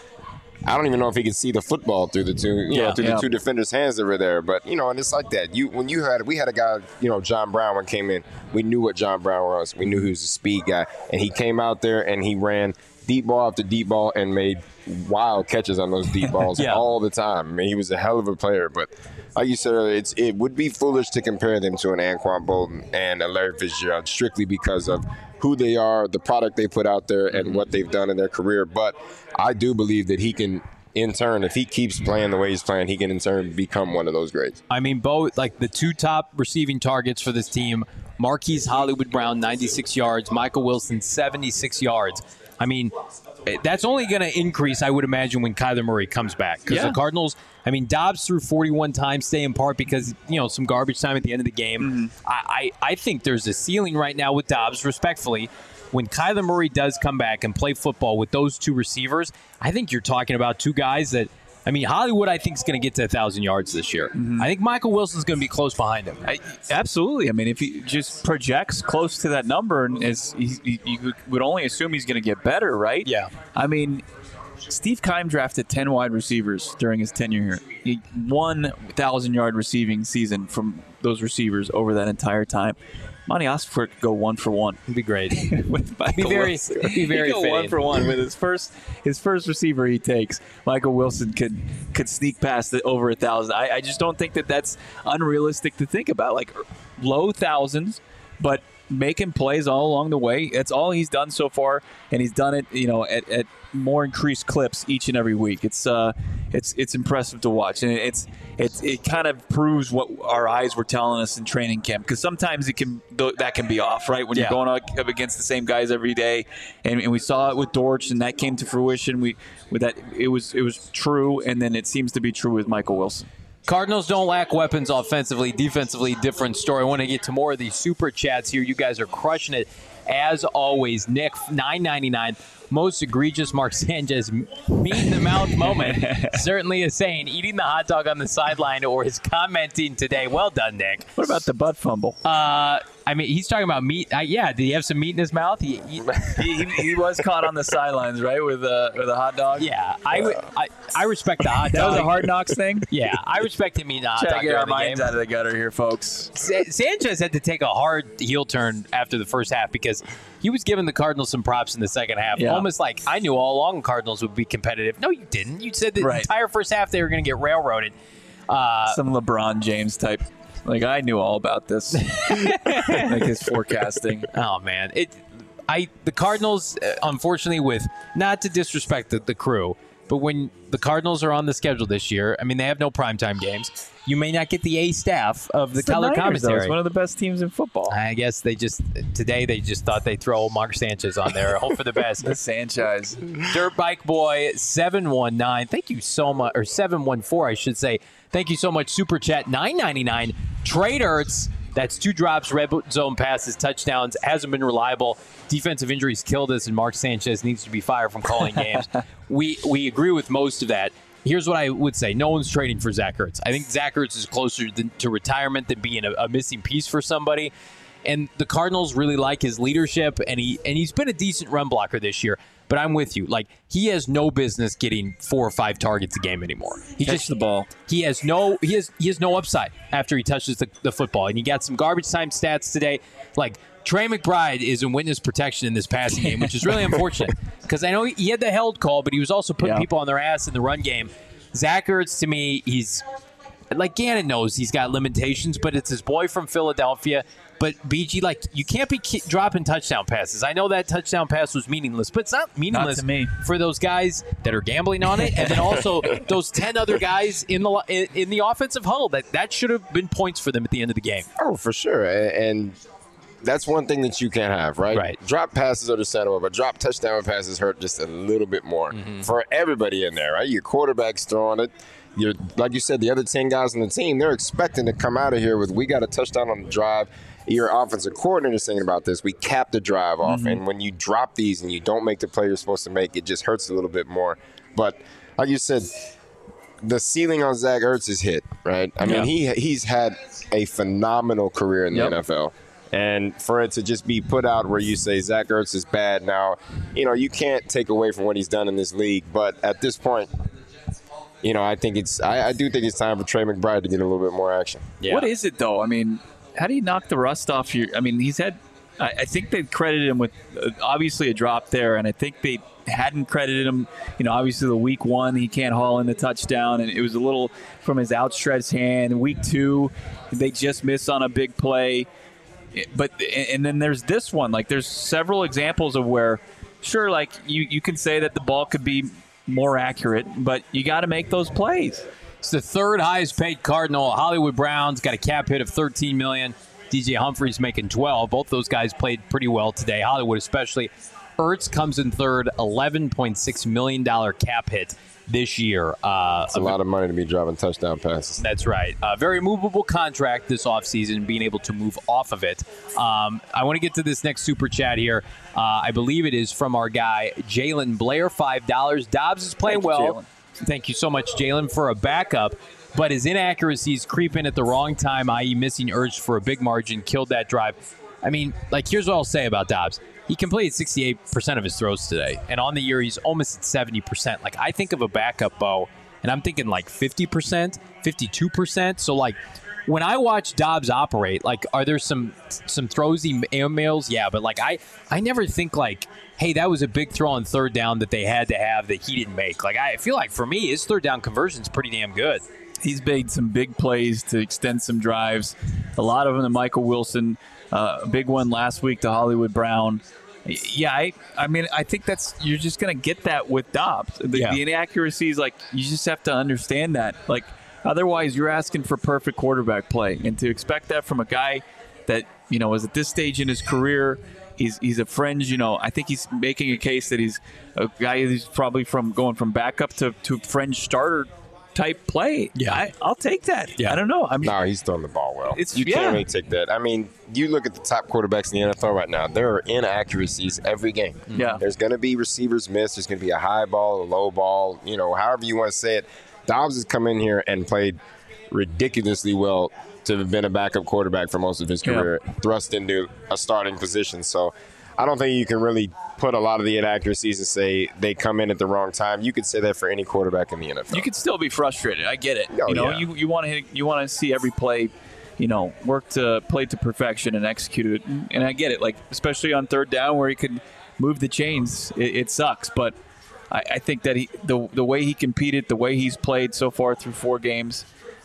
I don't even know if he could see the football through the 2 defenders' hands that were there. But, and it's like that. We had a guy, John Brown, when came in, we knew what John Brown was. We knew he was a speed guy. And he came out there and he ran deep ball after deep ball and made wild catches on those deep balls all the time. I mean, he was a hell of a player. But like you said earlier, it would be foolish to compare them to an Anquan Bolden and a Larry Fitzgerald strictly because of who they are, the product they put out there, and what they've done in their career. But I do believe that he can, in turn, if he keeps playing the way he's playing, he can, in turn, become one of those greats. I mean, Bo, like the 2 top receiving targets for this team, Marquise Hollywood Brown, 96 yards, Michael Wilson, 76 yards. I mean, that's only going to increase, I would imagine, when Kyler Murray comes back. Because the Cardinals, I mean, Dobbs threw 41 times, stay in part because, some garbage time at the end of the game. Mm-hmm. I think there's a ceiling right now with Dobbs, respectfully. When Kyler Murray does come back and play football with those 2 receivers, I think you're talking about 2 guys that I mean, Hollywood, I think, is going to get to 1,000 yards this year. I think Michael Wilson's going to be close behind him. Absolutely. I mean, if he just projects close to that number, and you would only assume he's going to get better, right? Yeah. I mean, Steve Keim drafted 10 wide receivers during his tenure here. He won 1,000-yard receiving season from those receivers over that entire time. Monty Osborne could go 1 for 1. It'd be great. With Michael Wilson. Be very He'd go 1 for 1 with his first receiver he takes. Michael Wilson could sneak past over 1,000. I just don't think that's unrealistic to think about. Like low thousands, but making plays all along the way. That's all he's done so far, and he's done it, at more increased clips each and every week. It's impressive to watch, and it kind of proves what our eyes were telling us in training camp. Because sometimes that can be off, right? When you're going up against the same guys every day, and we saw it with Dortch, and that came to fruition. It was true, and then it seems to be true with Michael Wilson. Cardinals don't lack weapons offensively. Defensively, different story. I want to get to more of these super chats here. You guys are crushing it. As always, Nick, $9.99. Most egregious Mark Sanchez meat-in-the-mouth moment. Certainly is saying eating the hot dog on the sideline or is commenting today. Well done, Nick. What about the butt fumble? I mean, he's talking about meat. Did he have some meat in his mouth? He was caught on the sidelines, right, with a hot dog? Yeah, I respect the hot dog. That was a Hard Knocks thing? Yeah, I respect him eating the hot dog. Get our minds out of the gutter here, folks. Sanchez had to take a hard heel turn after the first half because he was giving the Cardinals some props in the second half. Yeah. Almost like, I knew all along Cardinals would be competitive. No, you didn't. You said the entire first half they were going to get railroaded. Some LeBron James type. Like, I knew all about this. Like his forecasting. Oh, man. The Cardinals, unfortunately, with, not to disrespect the crew, but when the Cardinals are on the schedule this year, I mean, they have no primetime games. You may not get the A staff of the color commentary. It's one of the best teams in football. I guess today they just thought they'd throw Mark Sanchez on there. Hope for the best. The Sanchez. Dirt Bike Boy 719. Thank you so much, or 714, I should say. Thank you so much. Super Chat $9.99. Trade Ertz. That's 2 drops, red zone passes, touchdowns. Hasn't been reliable. Defensive injuries killed us, and Mark Sanchez needs to be fired from calling games. We agree with most of that. Here's what I would say. No one's trading for Zach Ertz. I think Zach Ertz is closer to retirement than being a missing piece for somebody. And the Cardinals really like his leadership, and he's been a decent run blocker this year. But I'm with you. Like, he has no business getting 4 or 5 targets a game anymore. He Catch the ball. He has no upside after he touches the football. And you got some garbage time stats today. Like, Trey McBride is in witness protection in this passing game, which is really unfortunate. Because I know he had the held call, but he was also putting people on their ass in the run game. Zach Ertz, to me, he's like, Gannon knows he's got limitations, but it's his boy from Philadelphia. But, BG, like, you can't be dropping touchdown passes. I know that touchdown pass was meaningless, but it's not meaningless for those guys that are gambling on it, and then also those 10 other guys in the offensive huddle. That should have been points for them at the end of the game. Oh, for sure. And that's one thing that you can't have, right? Right. Drop passes are the center, but drop touchdown passes hurt just a little bit more for everybody in there, right? Your quarterback's throwing it. Like you said, the other 10 guys on the team, they're expecting to come out of here with, we got a touchdown on the drive. Your offensive coordinator is thinking about this. We cap the drive off, and when you drop these and you don't make the play you're supposed to make, it just hurts a little bit more. But like you said, the ceiling on Zach Ertz is hit, right? I mean, he's had a phenomenal career in the NFL. And for it to just be put out where you say Zach Ertz is bad now, you can't take away from what he's done in this league. But at this point, I think I do think it's time for Trey McBride to get a little bit more action. Yeah. What is it, though? I mean, how do you knock the rust off he's had, I think they credited him with obviously a drop there, and I think they hadn't credited him, obviously the week 1, he can't haul in the touchdown, and it was a little from his outstretched hand. Week 2, they just missed on a big play. But, and then there's this one, like there's several examples of where, sure, like you can say that the ball could be more accurate, but you got to make those plays. It's the 3rd highest paid Cardinal. Hollywood Browns got a cap hit of $13 million. DJ Humphries making $12. Both those guys played pretty well today. Hollywood especially. Ertz comes in 3rd, $11.6 million cap hit this year. It's a lot of money to be driving touchdown passes. That's right. Very movable contract this offseason, being able to move off of it. I want to get to this next super chat here. I believe it is from our guy, Jalen Blair, $5. Dobbs is playing well. thank you so much, Jalen, for a backup. But his inaccuracies creep in at the wrong time, i.e. missing urge for a big margin, killed that drive. I mean, like, here's what I'll say about Dobbs. He completed 68% of his throws today. And on the year, he's almost at 70%. Like, I think of a backup, Bo, and I'm thinking like 50%, 52%. So, like, when I watch Dobbs operate, like, are there some throws he mails? Yeah, but, like, I never think, like, hey, that was a big throw on third down that they had to have that he didn't make. Like, I feel like, for me, his third down conversion's pretty damn good. He's made some big plays to extend some drives. A lot of them to Michael Wilson. A big one last week to Hollywood Brown. Yeah, I mean, I think you're just going to get that with Dobbs. The inaccuracies, like, you just have to understand that. Like, otherwise, you're asking for perfect quarterback play. And to expect that from a guy that, you know, is at this stage in his career, he's a fringe, you know, I think he's making a case that he's a guy who's probably going from backup to fringe starter type play. Yeah, I'll take that. Yeah. I don't know. I mean, no, he's throwing the ball well. You can't really take that. I mean, you look at the top quarterbacks in the NFL right now. There are inaccuracies every game. Yeah, there's going to be receivers miss. There's going to be a high ball, a low ball. You know, however you want to say it. Dobbs has come in here and played ridiculously well to have been a backup quarterback for most of his career, thrust into a starting position. So I don't think you can really put a lot of the inaccuracies and say they come in at the wrong time. You could say that for any quarterback in the NFL. You could still be frustrated. I get it. Oh, you know, you want to see every play, you know, play to perfection and execute it. And I get it. Like, especially on third down where he could move the chains, it sucks. But I think that the way he competed, the way he's played so far through 4 games,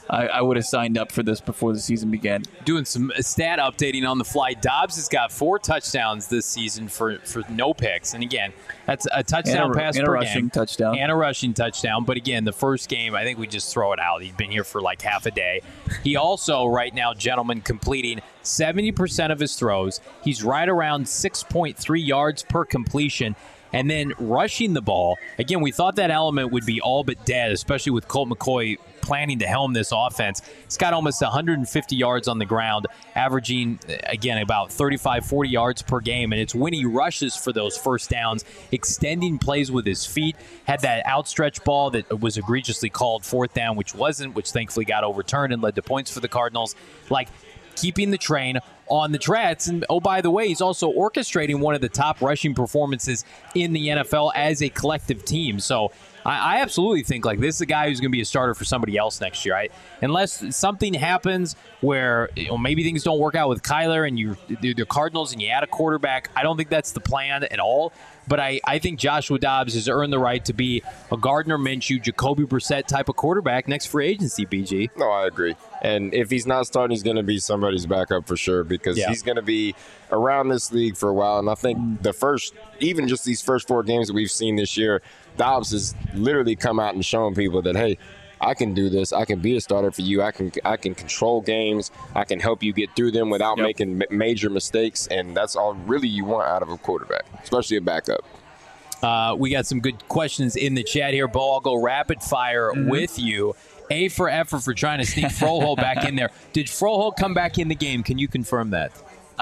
I would have signed up for this before the season began. Doing some stat updating on the fly. Dobbs has got 4 touchdowns this season for no picks. And again, that's a touchdown pass per game. And a rushing touchdown. And a rushing touchdown. But again, the first game, I think we just throw it out. He's been here for like half a day. He also, right now, gentlemen, completing 70% of his throws. He's right around 6.3 yards per completion. And then rushing the ball. Again, we thought that element would be all but dead, especially with Colt McCoy planning to helm this offense. He's got almost 150 yards on the ground, averaging, again, about 35, 40 yards per game. And it's when he rushes for those first downs, extending plays with his feet. Had that outstretched ball that was egregiously called fourth down, which wasn't, which thankfully got overturned and led to points for the Cardinals. Like, keeping the train on the tracks. And, oh, by the way, he's also orchestrating one of the top rushing performances in the NFL as a collective team. So I absolutely think, like, this is a guy who's going to be a starter for somebody else next year, right? Unless something happens where, you know, maybe things don't work out with Kyler and you're the Cardinals and you add a quarterback. I don't think that's the plan at all. But I think Joshua Dobbs has earned the right to be a Gardner Minshew, Jacoby Brissett type of quarterback next free agency, BG. No, I agree. And if he's not starting, he's going to be somebody's backup for sure because he's going to be around this league for a while. And I think even just these first 4 games that we've seen this year, Dobbs has literally come out and shown people that, hey, I can do this. I can be a starter for you. I can control games. I can help you get through them without making major mistakes. And that's all really you want out of a quarterback, especially a backup. We got some good questions in the chat here. Bo, I'll go rapid fire with you. A for effort for trying to sneak Froholt back in there. Did Froholt come back in the game? Can you confirm that?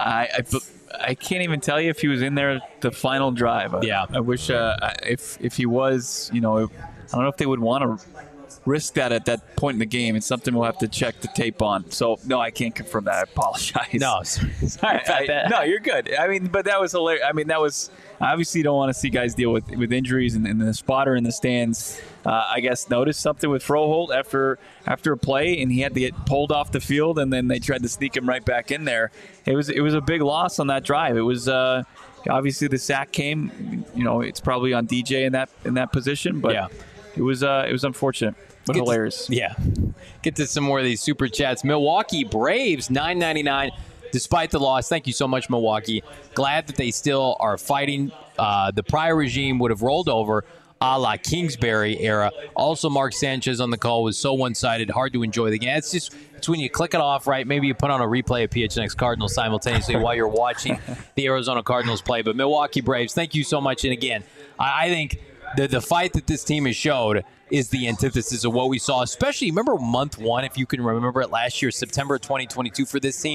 I can't even tell you if he was in there the final drive. I wish if he was, you know, I don't know if they would want to risk that at that point in the game. It's something we'll have to check the tape on. So, no, I can't confirm that. I apologize. No, sorry about that. No, you're good. I mean, but that was hilarious. I mean, that was obviously you don't want to see guys deal with injuries and the spotter in the stands. I guess noticed something with Froholt after a play, and he had to get pulled off the field, and then they tried to sneak him right back in there. It was a big loss on that drive. It was obviously the sack came. You know, it's probably on DJ in that position, but it was unfortunate. But hilarious. Get to some more of these super chats. Milwaukee Braves, $9.99 despite the loss. Thank you so much, Milwaukee. Glad that they still are fighting. The prior regime would have rolled over a la Kingsbury era. Also, Mark Sanchez on the call was so one-sided, hard to enjoy the game. It's when you click it off, right? Maybe you put on a replay of PHNX Cardinals simultaneously while you're watching the Arizona Cardinals play. But Milwaukee Braves, thank you so much. And again, I think the fight that this team has showed is the antithesis of what we saw, especially, remember month 1, if you can remember it last year, September 2022 for this team?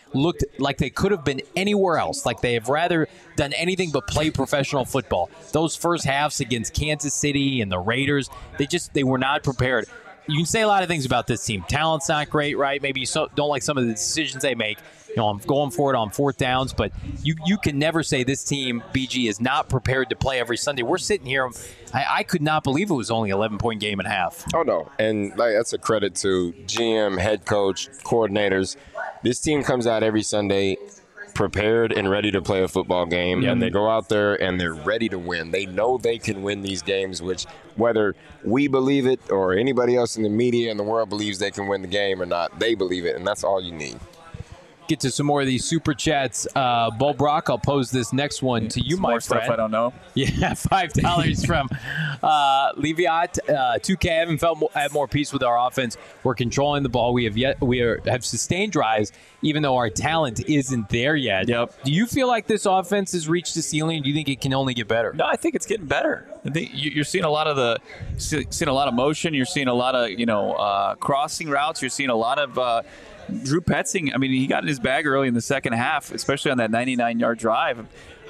looked like they could have been anywhere else, like they have rather done anything but play professional football. Those first halves against Kansas City and the Raiders, they were not prepared. You can say a lot of things about this team. Talent's not great, right? Maybe you don't like some of the decisions they make. I'm going for it on fourth downs, but you can never say this team, BG, is not prepared to play every Sunday. We're sitting here. I could not believe it was only 11-point game and a half. Oh, no. And that's a credit to GM, head coach, coordinators. This team comes out every Sunday prepared and ready to play a football game, and they go out there and they're ready to win. They know they can win these games, which whether we believe it or anybody else in the media and the world believes they can win the game or not, they believe it, and that's all you need. Get to some more of these super chats. Bo Brock, I'll pose this next one to you, my more friend. Stuff I don't know. Yeah, $5 from Leviat. 2K have more peace with our offense. We're controlling the ball. We have sustained drives, even though our talent isn't there yet. Yep. Do you feel like this offense has reached the ceiling? Do you think it can only get better? No, I think it's getting better. I think you're seeing a lot of motion. You're seeing a lot of crossing routes. You're seeing a lot of. Drew Petzing, I mean, he got in his bag early in the second half, especially on that 99-yard drive.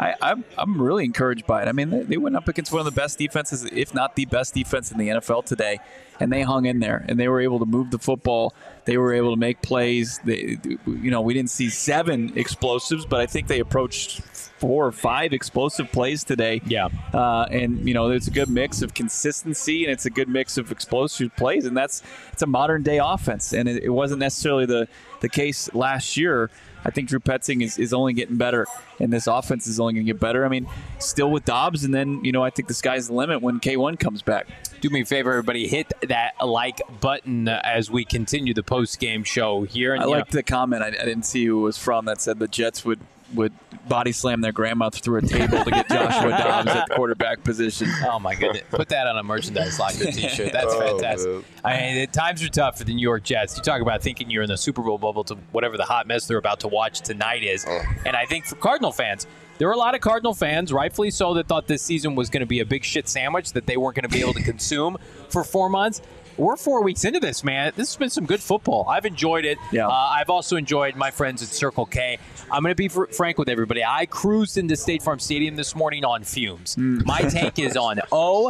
I'm really encouraged by it. I mean, they went up against one of the best defenses, if not the best defense in the NFL today, and they hung in there, and they were able to move the football. They were able to make plays. We didn't see 7 explosives, but I think they approached 4 or 5 explosive plays today. Yeah. And it's a good mix of consistency and it's a good mix of explosive plays, and it's a modern day offense. And it wasn't necessarily the case last year. I think Drew Petzing is only getting better, and this offense is only going to get better. I mean, still with Dobbs, and then I think the sky's the limit when K1 comes back. Do me a favor, everybody, hit that like button as we continue the post-game show here. And, I liked the comment. I didn't see who it was from that said the Jets would body slam their grandma through a table to get Joshua Dobbs at the quarterback position. Oh, my goodness. Put that on a merchandise locker t-shirt. That's fantastic. The times are tough for the New York Jets. You talk about thinking you're in the Super Bowl bubble to whatever the hot mess they're about to watch tonight is. And I think for Cardinal fans, there were a lot of Cardinal fans, rightfully so, that thought this season was going to be a big shit sandwich that they weren't going to be able to consume for 4 months. We're 4 weeks into this, man. This has been some good football. I've enjoyed it. Yeah. I've also enjoyed my friends at Circle K. I'm going to be frank with everybody. I cruised into State Farm Stadium this morning on fumes. My tank is on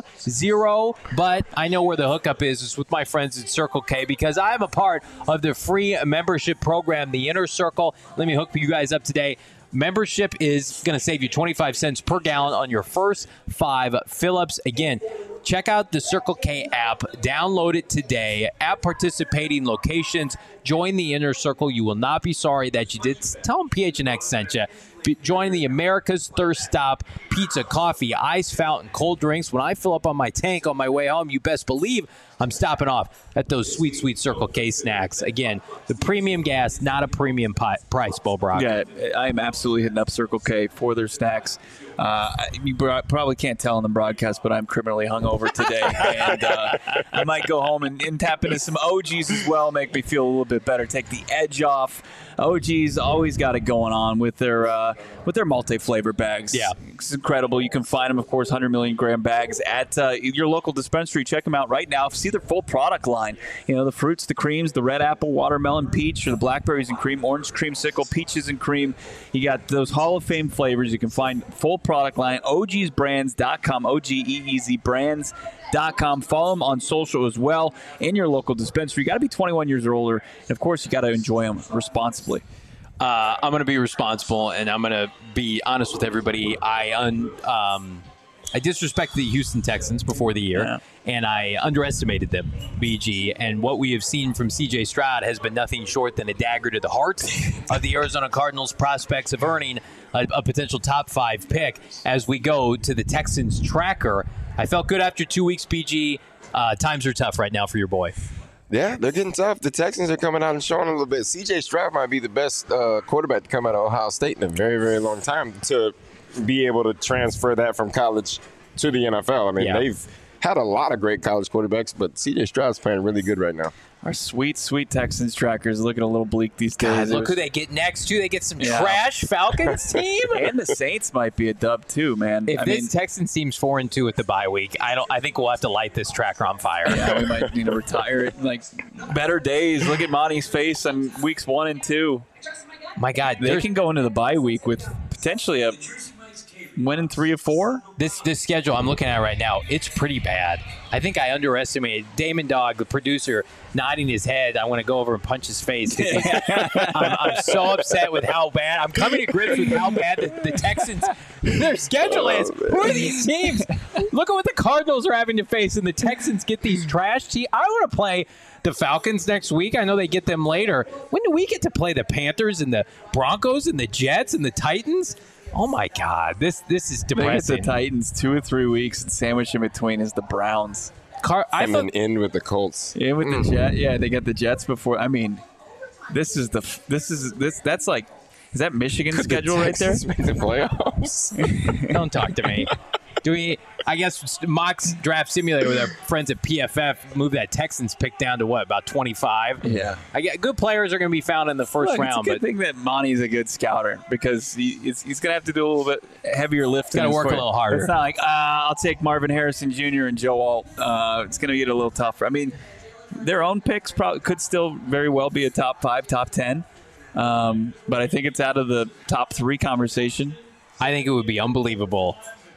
0, but I know where the hookup is with my friends at Circle K because I am a part of the free membership program, the Inner Circle. Let me hook you guys up today. Membership is going to save you 25 cents per gallon on your first 5 fill-ups. Again, check out the Circle K app. Download it today. At participating locations, join the Inner Circle. You will not be sorry that you did. Tell them PHNX sent you. Join the America's Thirst Stop pizza, coffee, ice fountain, cold drinks. When I fill up on my tank on my way home, you best believe I'm stopping off at those sweet, sweet Circle K snacks. Again, the premium gas, not a premium price, Bo Brock. Yeah, I'm absolutely hitting up Circle K for their snacks. You probably can't tell in the broadcast, but I'm criminally hungover today. And I might go home and tap into some OGs as well, make me feel a little bit better, take the edge off. OG's always got it going on with their multi-flavor bags. Yeah. It's incredible. You can find them, of course, 100 million gram bags at your local dispensary. Check them out right now. See their full product line. The fruits, the creams, the red apple, watermelon, peach, or the blackberries and cream, orange creamsicle, peaches and cream. You got those Hall of Fame flavors. You can find full product line, ogsbrands.com, OGEEZ brands.com. Follow them on social as well in your local dispensary. You got to be 21 years or older. And, of course, you got to enjoy them responsibly. I'm going to be responsible, and I'm going to be honest with everybody. I disrespected the Houston Texans before the year, and I underestimated them, BG. And what we have seen from C.J. Stroud has been nothing short than a dagger to the heart of the Arizona Cardinals' prospects of earning a potential top 5 pick as we go to the Texans tracker. I felt good after 2 weeks, BG. Times are tough right now for your boy. Yeah, they're getting tough. The Texans are coming out and showing a little bit. C.J. Stroud might be the best quarterback to come out of Ohio State in a very, very long time to be able to transfer that from college to the NFL. I mean, they've had a lot of great college quarterbacks, but C.J. Stroud's playing really good right now. Our sweet, sweet Texans trackers looking a little bleak these days. God, look who they get next, too. They get some trash Falcons team. And the Saints might be a dub, too, man. If this Texans team's 4-2 at the bye week, I think we'll have to light this tracker on fire. Yeah, we might need to retire it. Like, better days. Look at Monty's face on weeks 1 and 2. My God, they can go into the bye week with potentially a winning 3 or 4. This schedule I'm looking at right now, it's pretty bad. I think I underestimated Damon Dog, the producer, nodding his head. I want to go over and punch his face. I'm so upset with how bad. I'm coming to grips with how bad the Texans, their schedule is. Who are these teams? Look at what the Cardinals are having to face, and the Texans get these trash teams. I want to play the Falcons next week. I know they get them later. When do we get to play the Panthers and the Broncos and the Jets and the Titans? Oh, my God. This is depressing. The Titans 2 or 3 weeks, and sandwiched in between is the Browns. And then end with the Colts. In with the Jets. Yeah, they got the Jets before. I mean, that's like, is that Michigan's schedule right there? Make the playoffs? Don't talk to me. Do we? I guess Mock's Draft Simulator with our friends at PFF moved that Texans pick down to what, about 25? Yeah. I get good players are going to be found in the first round. It's a good thing that Monty's a good scouter because he's going to have to do a little bit heavier lifting. Got to work a little harder. It's not like I'll take Marvin Harrison Jr. and Joe Alt. It's going to get a little tougher. I mean, their own picks probably could still very well be a top 5, top 10, but I think it's out of the top 3 conversation. I think it would be unbelievable.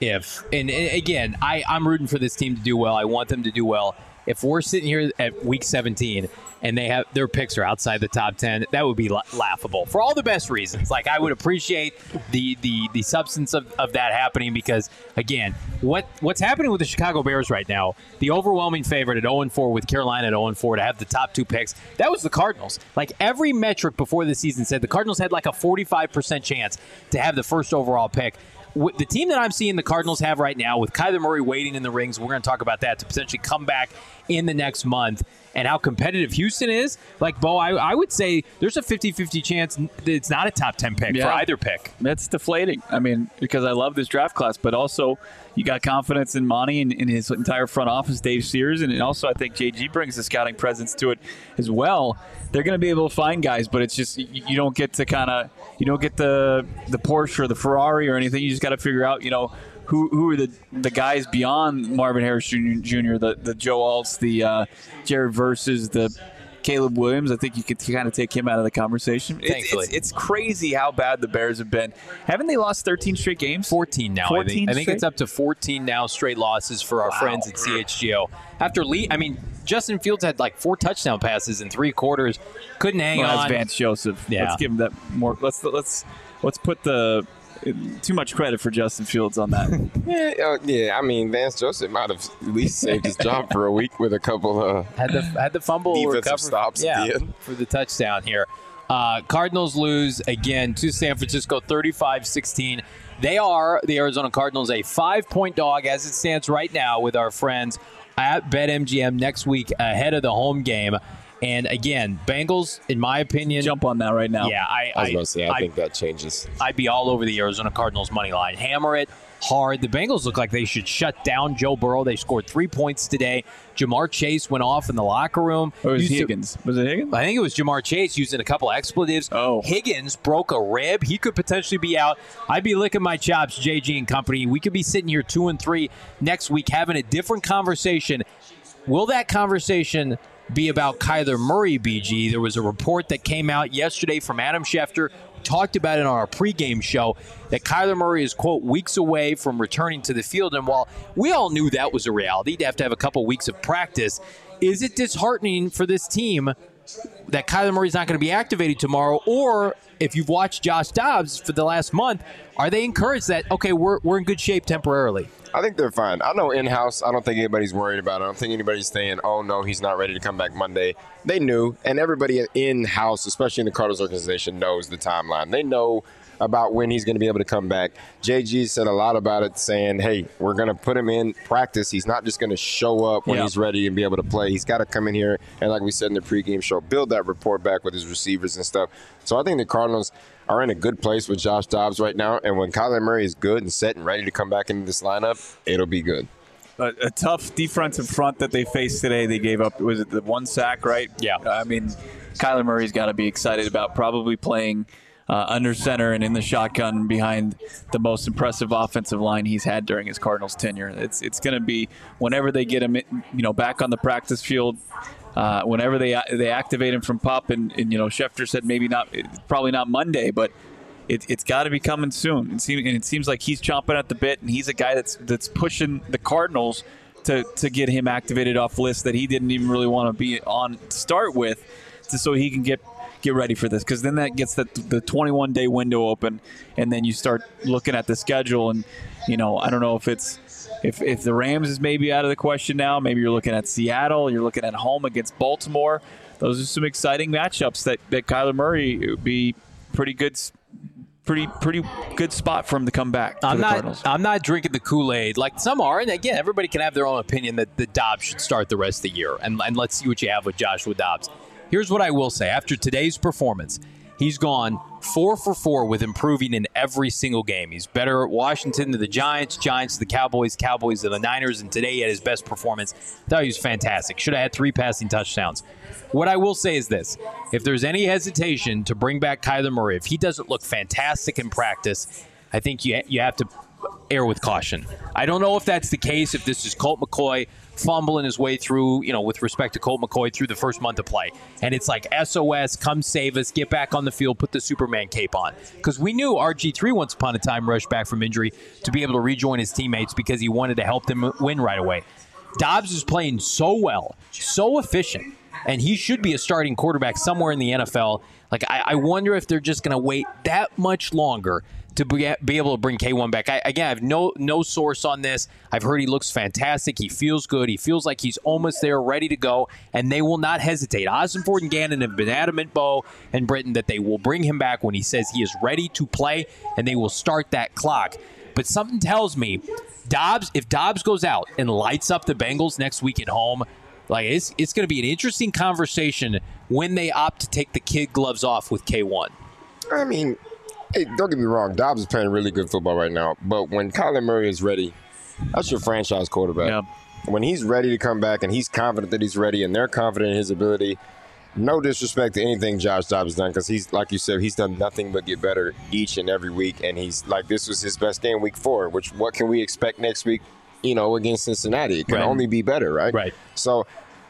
And again, I'm rooting for this team to do well. I want them to do well. If we're sitting here at week 17 and they have their picks are outside the top 10, that would be laughable for all the best reasons. Like, I would appreciate the substance of that happening because, again, what's happening with the Chicago Bears right now, the overwhelming favorite at 0-4 with Carolina at 0-4 to have the top 2 picks, that was the Cardinals. Like, every metric before the season said the Cardinals had like a 45% chance to have the first overall pick. The team that I'm seeing the Cardinals have right now with Kyler Murray waiting in the rings, we're going to talk about that, to potentially come back in the next month, and how competitive Houston is. Like, Bo, I would say there's a 50-50 chance that it's not a top 10 pick for either pick. That's deflating. I mean, because I love this draft class, but also you got confidence in Monty and in his entire front office, Dave Sears, and also I think JG brings the scouting presence to it as well. They're going to be able to find guys, but it's just you don't get to you don't get the Porsche or the Ferrari or anything. You just got to figure out, who are the guys beyond Marvin Harris Jr., the Joe Alts, the Jared Verses, the Caleb Williams. I think you could kind of take him out of the conversation. It's crazy how bad the Bears have been. Haven't they lost 13 straight games? 14 now, 14 I think it's up to 14 now straight losses for our friends at CHGO. After Justin Fields had like 4 touchdown passes in 3 quarters. Couldn't hang on. That's Vance Joseph. Yeah. Let's give him that more. Let's put the too much credit for Justin Fields on that. Yeah. I mean, Vance Joseph might have at least saved his job for a week with a couple of had the fumble defensive stops at the end for the touchdown here. Cardinals lose again to San Francisco, 35-16. They are the Arizona Cardinals a 5-point dog as it stands right now with our friends at BetMGM next week ahead of the home game. And again, Bengals, in my opinion, jump on that right now. Yeah, I was going to say, I think that changes. I'd be all over the Arizona Cardinals money line. Hammer it hard. The Bengals look like they should shut down Joe Burrow. They scored 3 points today. Jamar Chase went off in the locker room. Or was Higgins? Was it Higgins? I think it was Jamar Chase using a couple expletives. Oh. Higgins broke a rib. He could potentially be out. I'd be licking my chops, JG and company. We could be sitting here 2-3 next week having a different conversation. Will that conversation be about Kyler Murray, BG? There was a report that came out yesterday from Adam Schefter, talked about it on our pregame show, that Kyler Murray is, quote, weeks away from returning to the field. And while we all knew that was a reality, to have a couple weeks of practice, is it disheartening for this team that Kyler Murray's not going to be activated tomorrow? Or if you've watched Josh Dobbs for the last month, are they encouraged that, okay, we're in good shape temporarily? I think they're fine. I know in-house, I don't think anybody's worried about it. I don't think anybody's saying, oh, no, he's not ready to come back Monday. They knew, and everybody in-house, especially in the Cardinals organization, knows the timeline. They know about when he's going to be able to come back. JG said a lot about it, saying, hey, we're going to put him in practice. He's not just going to show up when he's ready and be able to play. He's got to come in here and, like we said in the pregame show, build that rapport back with his receivers and stuff. So I think the Cardinals are in a good place with Josh Dobbs right now. And when Kyler Murray is good and set and ready to come back into this lineup, it'll be good. A tough defensive front that they faced today. They gave up, was it the 1 sack, right? Yeah. I mean, Kyler Murray's got to be excited about probably playing under center and in the shotgun behind the most impressive offensive line he's had during his Cardinals tenure. It's going to be, whenever they get him back on the practice field, whenever they activate him from PUP, and Schefter said probably not Monday, but it's got to be coming soon. It seems like he's chomping at the bit, and he's a guy that's pushing the Cardinals to get him activated off lists that he didn't even really want to be on to start with, so he can get ready for this, because then that gets the 21-day window open, and then you start looking at the schedule, and I don't know if the Rams is maybe out of the question now. Maybe you're looking at Seattle, you're looking at home against Baltimore. Those are some exciting matchups that Kyler Murray would be pretty good spot for him to come back to the Cardinals. I'm not drinking the Kool-Aid like some are, and again, everybody can have their own opinion that Dobbs should start the rest of the year, and let's see what you have with Joshua Dobbs. Here's what I will say. After today's performance, he's gone 4 for 4 with improving in every single game. He's better at Washington to the Giants, Giants to the Cowboys, Cowboys to the Niners, and today he had his best performance. I thought he was fantastic. Should have had 3 passing touchdowns. What I will say is this. If there's any hesitation to bring back Kyler Murray, if he doesn't look fantastic in practice, I think you have to err with caution. I don't know if that's the case, if this is Colt McCoy fumbling his way through, with respect to Colt McCoy through the first month of play. And it's like SOS, come save us, get back on the field, put the Superman cape on. Because we knew RG3 once upon a time rushed back from injury to be able to rejoin his teammates because he wanted to help them win right away. Dobbs is playing so well, so efficient, and he should be a starting quarterback somewhere in the NFL. Like, I wonder if they're just going to wait that much longer to be able to bring K1 back. I have no source on this. I've heard he looks fantastic. He feels good. He feels like he's almost there, ready to go, and they will not hesitate. Ossenford and Gannon have been adamant, Bo and Britton, that they will bring him back when he says he is ready to play, and they will start that clock. But something tells me if Dobbs goes out and lights up the Bengals next week at home, like it's going to be an interesting conversation when they opt to take the kid gloves off with K1. I mean, hey, don't get me wrong. Dobbs is playing really good football right now. But when Kyler Murray is ready, that's your franchise quarterback. Yeah. When he's ready to come back and he's confident that he's ready and they're confident in his ability, no disrespect to anything Josh Dobbs has done, because he's, like you said, he's done nothing but get better each and every week. And he's like, this was his best game week 4, which what can we expect next week, against Cincinnati? It can only be better, right? Right. So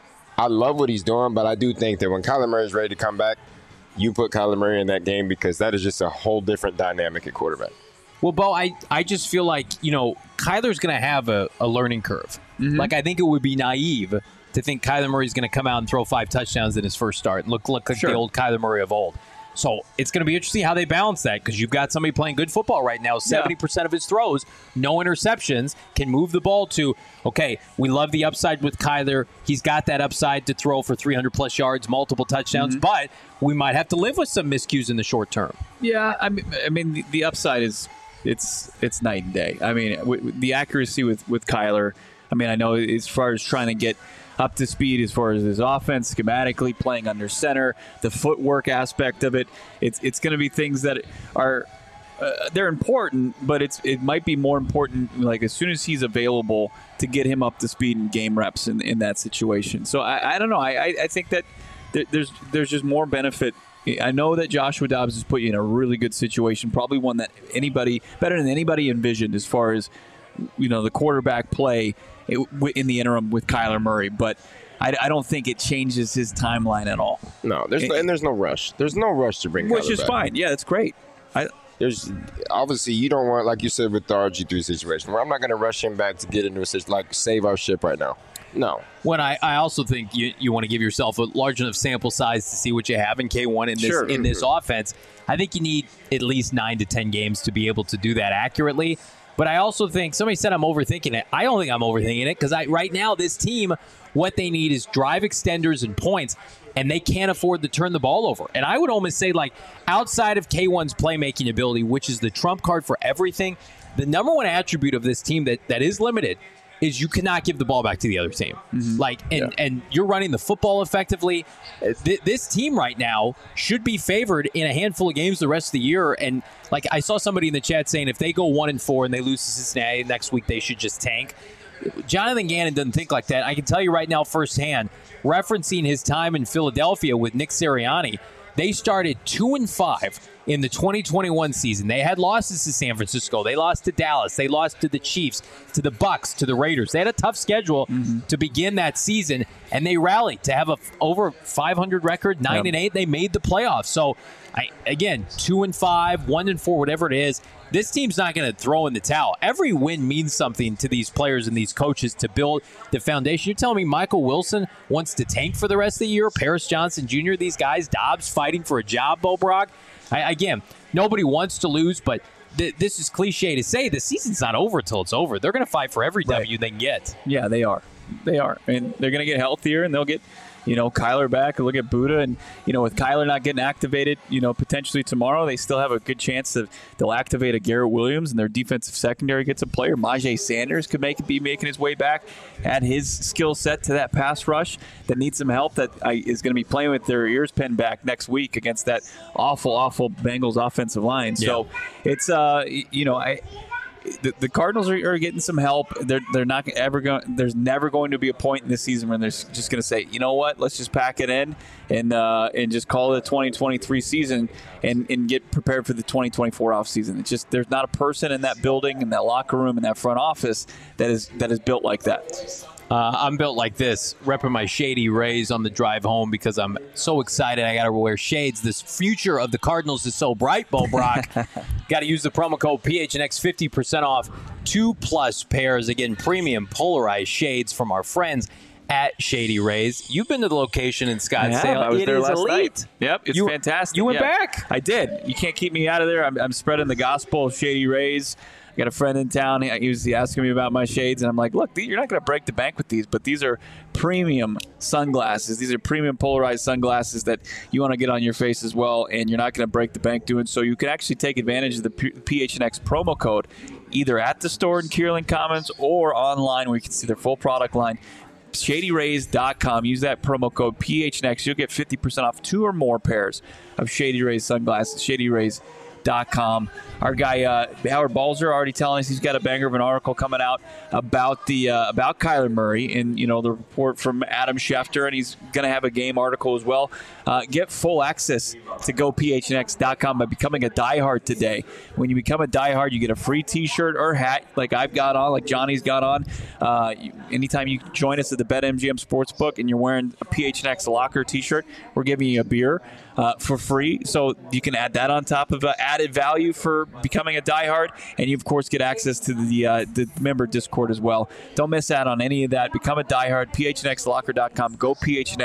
I love what he's doing, but I do think that when Kyler Murray is ready to come back, you put Kyler Murray in that game, because that is just a whole different dynamic at quarterback. Well, Bo, I just feel like, Kyler's going to have a learning curve. Mm-hmm. Like, I think it would be naive to think Kyler Murray's going to come out and throw 5 touchdowns in his first start and look like the old Kyler Murray of old. So it's going to be interesting how they balance that, because you've got somebody playing good football right now. 70% of his throws, no interceptions, can move the ball to, okay, we love the upside with Kyler. He's got that upside to throw for 300-plus yards, multiple touchdowns, but we might have to live with some miscues in the short term. Yeah, I mean the upside is it's night and day. I mean, the accuracy with Kyler, I know as far as trying to get up to speed as far as his offense, schematically, playing under center, the footwork aspect of it. It's going to be things that are they're important, but it might be more important, like, as soon as he's available, to get him up to speed in game reps in that situation. So I don't know. I think that there's just more benefit. I know that Joshua Dobbs has put you in a really good situation, probably one that better than anybody envisioned as far as the quarterback play in the interim with Kyler Murray, but I don't think it changes his timeline at all. No, there's no rush. There's no rush to bring Kyler back. Which is fine. Yeah, that's great. There's obviously, you don't want, like you said with the RG3 situation, where I'm not going to rush him back to get into a situation like save our ship right now. No. When I also think you want to give yourself a large enough sample size to see what you have in K1 in this offense. I think you need at least 9 to 10 games to be able to do that accurately. But I also think, somebody said I'm overthinking it. I don't think I'm overthinking it, because right now this team, what they need is drive extenders and points, and they can't afford to turn the ball over. And I would almost say, like, outside of K1's playmaking ability, which is the trump card for everything, the number one attribute of this team that is limited is you cannot give the ball back to the other team. Mm-hmm. And you're running the football effectively. This team right now should be favored in a handful of games the rest of the year. And like, I saw somebody in the chat saying if they go 1-4 and they lose to Cincinnati next week, they should just tank. Jonathan Gannon doesn't think like that. I can tell you right now firsthand, referencing his time in Philadelphia with Nick Sirianni, they started 2-5 in the 2021 season, they had losses to San Francisco. They lost to Dallas. They lost to the Chiefs, to the Bucks, to the Raiders. They had a tough schedule to begin that season, and they rallied to have a over 500 record, 9-8. They made the playoffs. So, again, 2-5, 1-4, whatever it is. This team's not going to throw in the towel. Every win means something to these players and these coaches to build the foundation. You're telling me Michael Wilson wants to tank for the rest of the year? Paris Johnson Jr., these guys, Dobbs fighting for a job, Bo Brock? Again, nobody wants to lose, but this is cliche to say. The season's not over until it's over. They're going to fight for every W they can get. Yeah, they are. They are. And they're going to get healthier, and they'll get Kyler back. Look at Buddha, and with Kyler not getting activated, potentially tomorrow, they still have a good chance that they'll activate a Garrett Williams, and their defensive secondary gets a player. Majay Sanders could be making his way back, add his skill set to that pass rush that needs some help. That is going to be playing with their ears pinned back next week against that awful Bengals offensive line. Yeah. So it's The Cardinals are getting some help. They're not ever going. There's never going to be a point in this season when they're just going to say, you know what, let's just pack it in and just call it the 2023 season and get prepared for the 2024 offseason. It's just there's not a person in that building, in that locker room, in that front office that is built like that. I'm built like this, repping my Shady Rays on the drive home because I'm so excited. I got to wear shades. This future of the Cardinals is so bright, Bo Brock. Got to use the promo code PHNX, 50% off 2+ pairs. Again, premium polarized shades from our friends at Shady Rays. You've been to the location in Scottsdale. I was there last elite. night. Yep, it's fantastic. You went back? I did. You can't keep me out of there. I'm spreading the gospel of Shady Rays. I got a friend in town. He was asking me about my shades, and I'm like, look, you're not going to break the bank with these, but these are premium sunglasses. These are premium polarized sunglasses that you want to get on your face as well, and you're not going to break the bank doing so. You can actually take advantage of the PHNX promo code either at the store in Kierland Commons or online where you can see their full product line. ShadyRays.com. Use that promo code PHNX. You'll get 50% off 2 or more pairs of Shady Rays sunglasses. ShadyRays.com. Our guy Howard Balzer already telling us he's got a banger of an article coming out about Kyler Murray, and the report from Adam Schefter, and he's going to have a game article as well. Get full access to GoPHNX.com by becoming a diehard today. When you become a diehard, you get a free T-shirt or hat, like I've got on, like Johnny's got on. Anytime you join us at the BetMGM Sportsbook and you're wearing a PHNX Locker T-shirt, we're giving you a beer for free, so you can add that on top of added value for becoming a diehard, and you of course get access to the member Discord as well. Don't miss out on any of that. Become a diehard. PHNXLocker.com. Go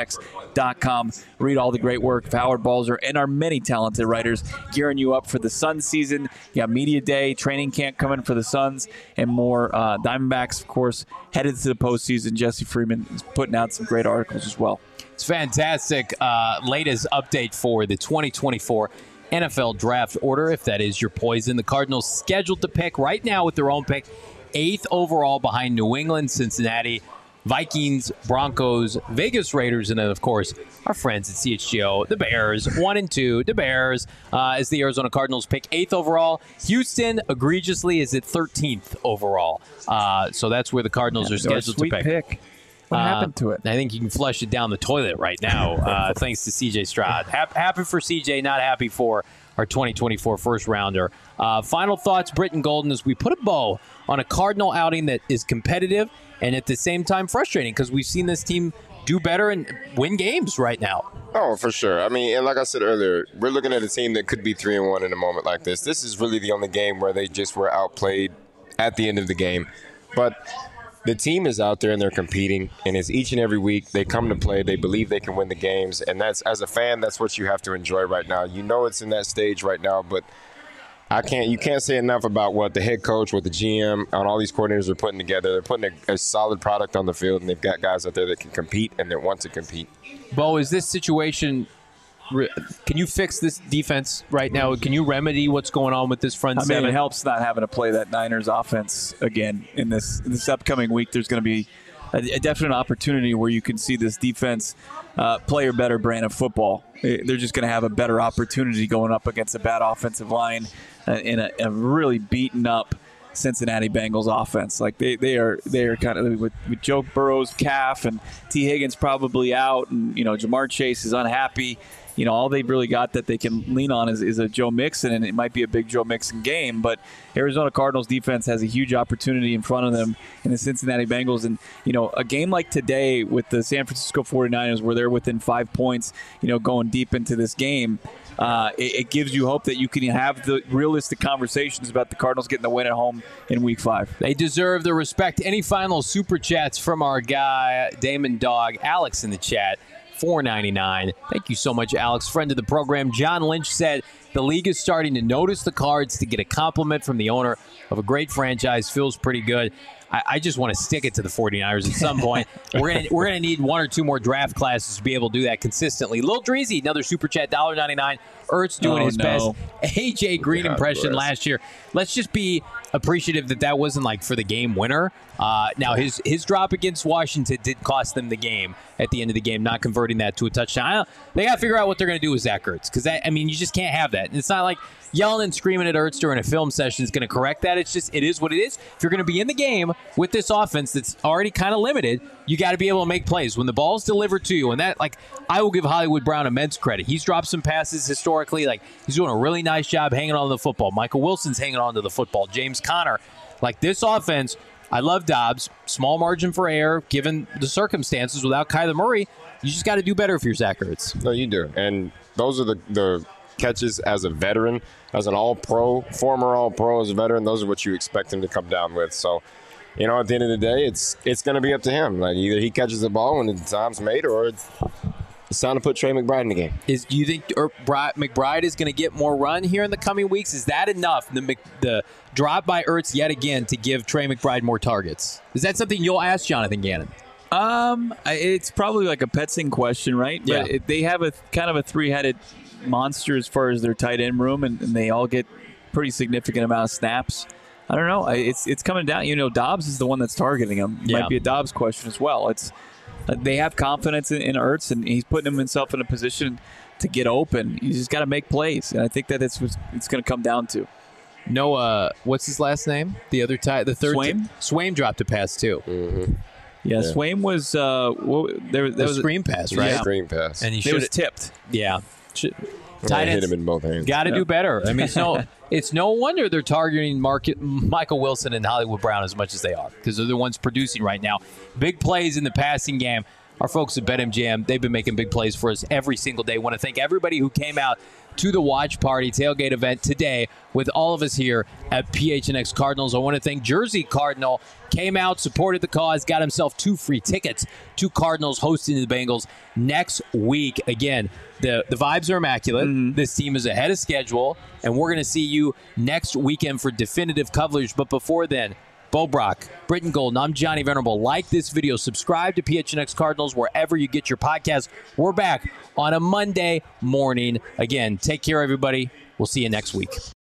PHNX.com. Read all the great work of Howard Balzer and our many talented writers gearing you up for the Suns season. You got Media Day, training camp coming for the Suns, and more. Diamondbacks, of course, headed to the postseason. Jesse Freeman is putting out some great articles as well. It's fantastic. Latest update for the 2024 NFL draft order, if that is your poison. The Cardinals scheduled to pick right now with their own pick, 8th overall behind New England, Cincinnati, Vikings, Broncos, Vegas Raiders, and then, of course, our friends at CHGO, the Bears, 1 and 2. The Bears, as the Arizona Cardinals pick 8th overall. Houston, egregiously, is at 13th overall. So that's where the Cardinals are scheduled to pick. What happened to it? I think you can flush it down the toilet right now, thanks to CJ Stroud. Happy for CJ, not happy for our 2024 first rounder. Final thoughts, Britton Golden, as we put a bow on a Cardinal outing that is competitive and at the same time frustrating, because we've seen this team do better and win games right now. Oh, for sure. I mean, and like I said earlier, we're looking at a team that could be 3-1 in a moment like this. This is really the only game where they just were outplayed at the end of the game. But the team is out there and they're competing, and it's each and every week they come to play. They believe they can win the games, and that's, as a fan, that's what you have to enjoy right now. You know it's in that stage right now, but you can't say enough about what the head coach, what the GM, and all these coordinators are putting together. They're putting a solid product on the field, and they've got guys out there that can compete and that want to compete. Bo, is this situation, can you fix this defense right now? Can you remedy what's going on with this front seven? It helps not having to play that Niners offense again in this upcoming week. There's going to be a definite opportunity where you can see this defense play a better brand of football. They're just going to have a better opportunity going up against a bad offensive line in a really beaten up Cincinnati Bengals offense. Like they are kind of with Joe Burrow's calf and T. Higgins probably out, and Jamar Chase is unhappy. All they've really got that they can lean on is a Joe Mixon, and it might be a big Joe Mixon game. But Arizona Cardinals defense has a huge opportunity in front of them in the Cincinnati Bengals. And, a game like today with the San Francisco 49ers where they're within 5 points, going deep into this game, it gives you hope that you can have the realistic conversations about the Cardinals getting the win at home in Week 5. They deserve the respect. Any final super chats from our guy, Damon Dog, Alex in the chat? $4.99. Thank you so much, Alex, friend of the program. John Lynch said the league is starting to notice the Cards. To get a compliment from the owner of a great franchise feels pretty good. I just want to stick it to the 49ers at some point. We're gonna need one or two more draft classes to be able to do that consistently. Lil Dreezy, another super chat, $1.99. Ertz doing his best. AJ Green impression last year. Let's just be appreciative that wasn't like for the game winner. Now his drop against Washington did cost them the game at the end of the game, not converting that to a touchdown. They got to figure out what they're going to do with Zach Ertz, because you just can't have that. And it's not like yelling and screaming at Ertz during a film session is going to correct that. It is what it is. If you're going to be in the game with this offense that's already kind of limited, you got to be able to make plays when the ball's delivered to you. And that, I will give Hollywood Brown immense credit. He's dropped some passes historically. He's doing a really nice job hanging on to the football. Michael Wilson's hanging on to the football. James Conner. This offense, I love Dobbs. Small margin for error, given the circumstances. Without Kyler Murray, you just got to do better if you're Zach Ertz. No, you do. And those are the catches as a veteran, as an all-pro, former all-pro, as a veteran. Those are what you expect him to come down with. So, at the end of the day, it's going to be up to him. Either he catches the ball when the time's made, or it's time to put Trey McBride in the game. Do you think McBride is going to get more run here in the coming weeks? Is that enough, the drop by Ertz yet again, to give Trey McBride more targets? Is that something you'll ask Jonathan Gannon? It's probably like a Petsing question, right? Yeah. But they have a kind of a three-headed monster as far as their tight end room, and they all get pretty significant amount of snaps. I don't know. It's coming down. Dobbs is the one that's targeting him. It might be a Dobbs question as well. They have confidence in Ertz, and he's putting himself in a position to get open. You just got to make plays, and I think that it's going to come down to. No, what's his last name? The third. Swaim? Swaim dropped a pass too. Mm-hmm. Yeah, Swaim was there was a screen pass, right? Yeah. Screen pass, and he was tipped. Yeah. Tight ends hit him in both hands. Got to do better. It's no wonder they're targeting Michael Wilson and Hollywood Brown as much as they are, because they're the ones producing right now. Big plays in the passing game. Our folks at BetMGM, they've been making big plays for us every single day. I want to thank everybody who came out to the watch party tailgate event today with all of us here at PHNX Cardinals. I want to thank Jersey Cardinal. Came out, supported the cause, got himself 2 free tickets to Cardinals hosting the Bengals next week. Again, the vibes are immaculate. Mm-hmm. This team is ahead of schedule, and we're going to see you next weekend for definitive coverage. But before then, Bo Brock, Britton Golden, I'm Johnny Venerable. Like this video, subscribe to PHNX Cardinals wherever you get your podcast. We're back on a Monday morning. Again, take care, everybody. We'll see you next week.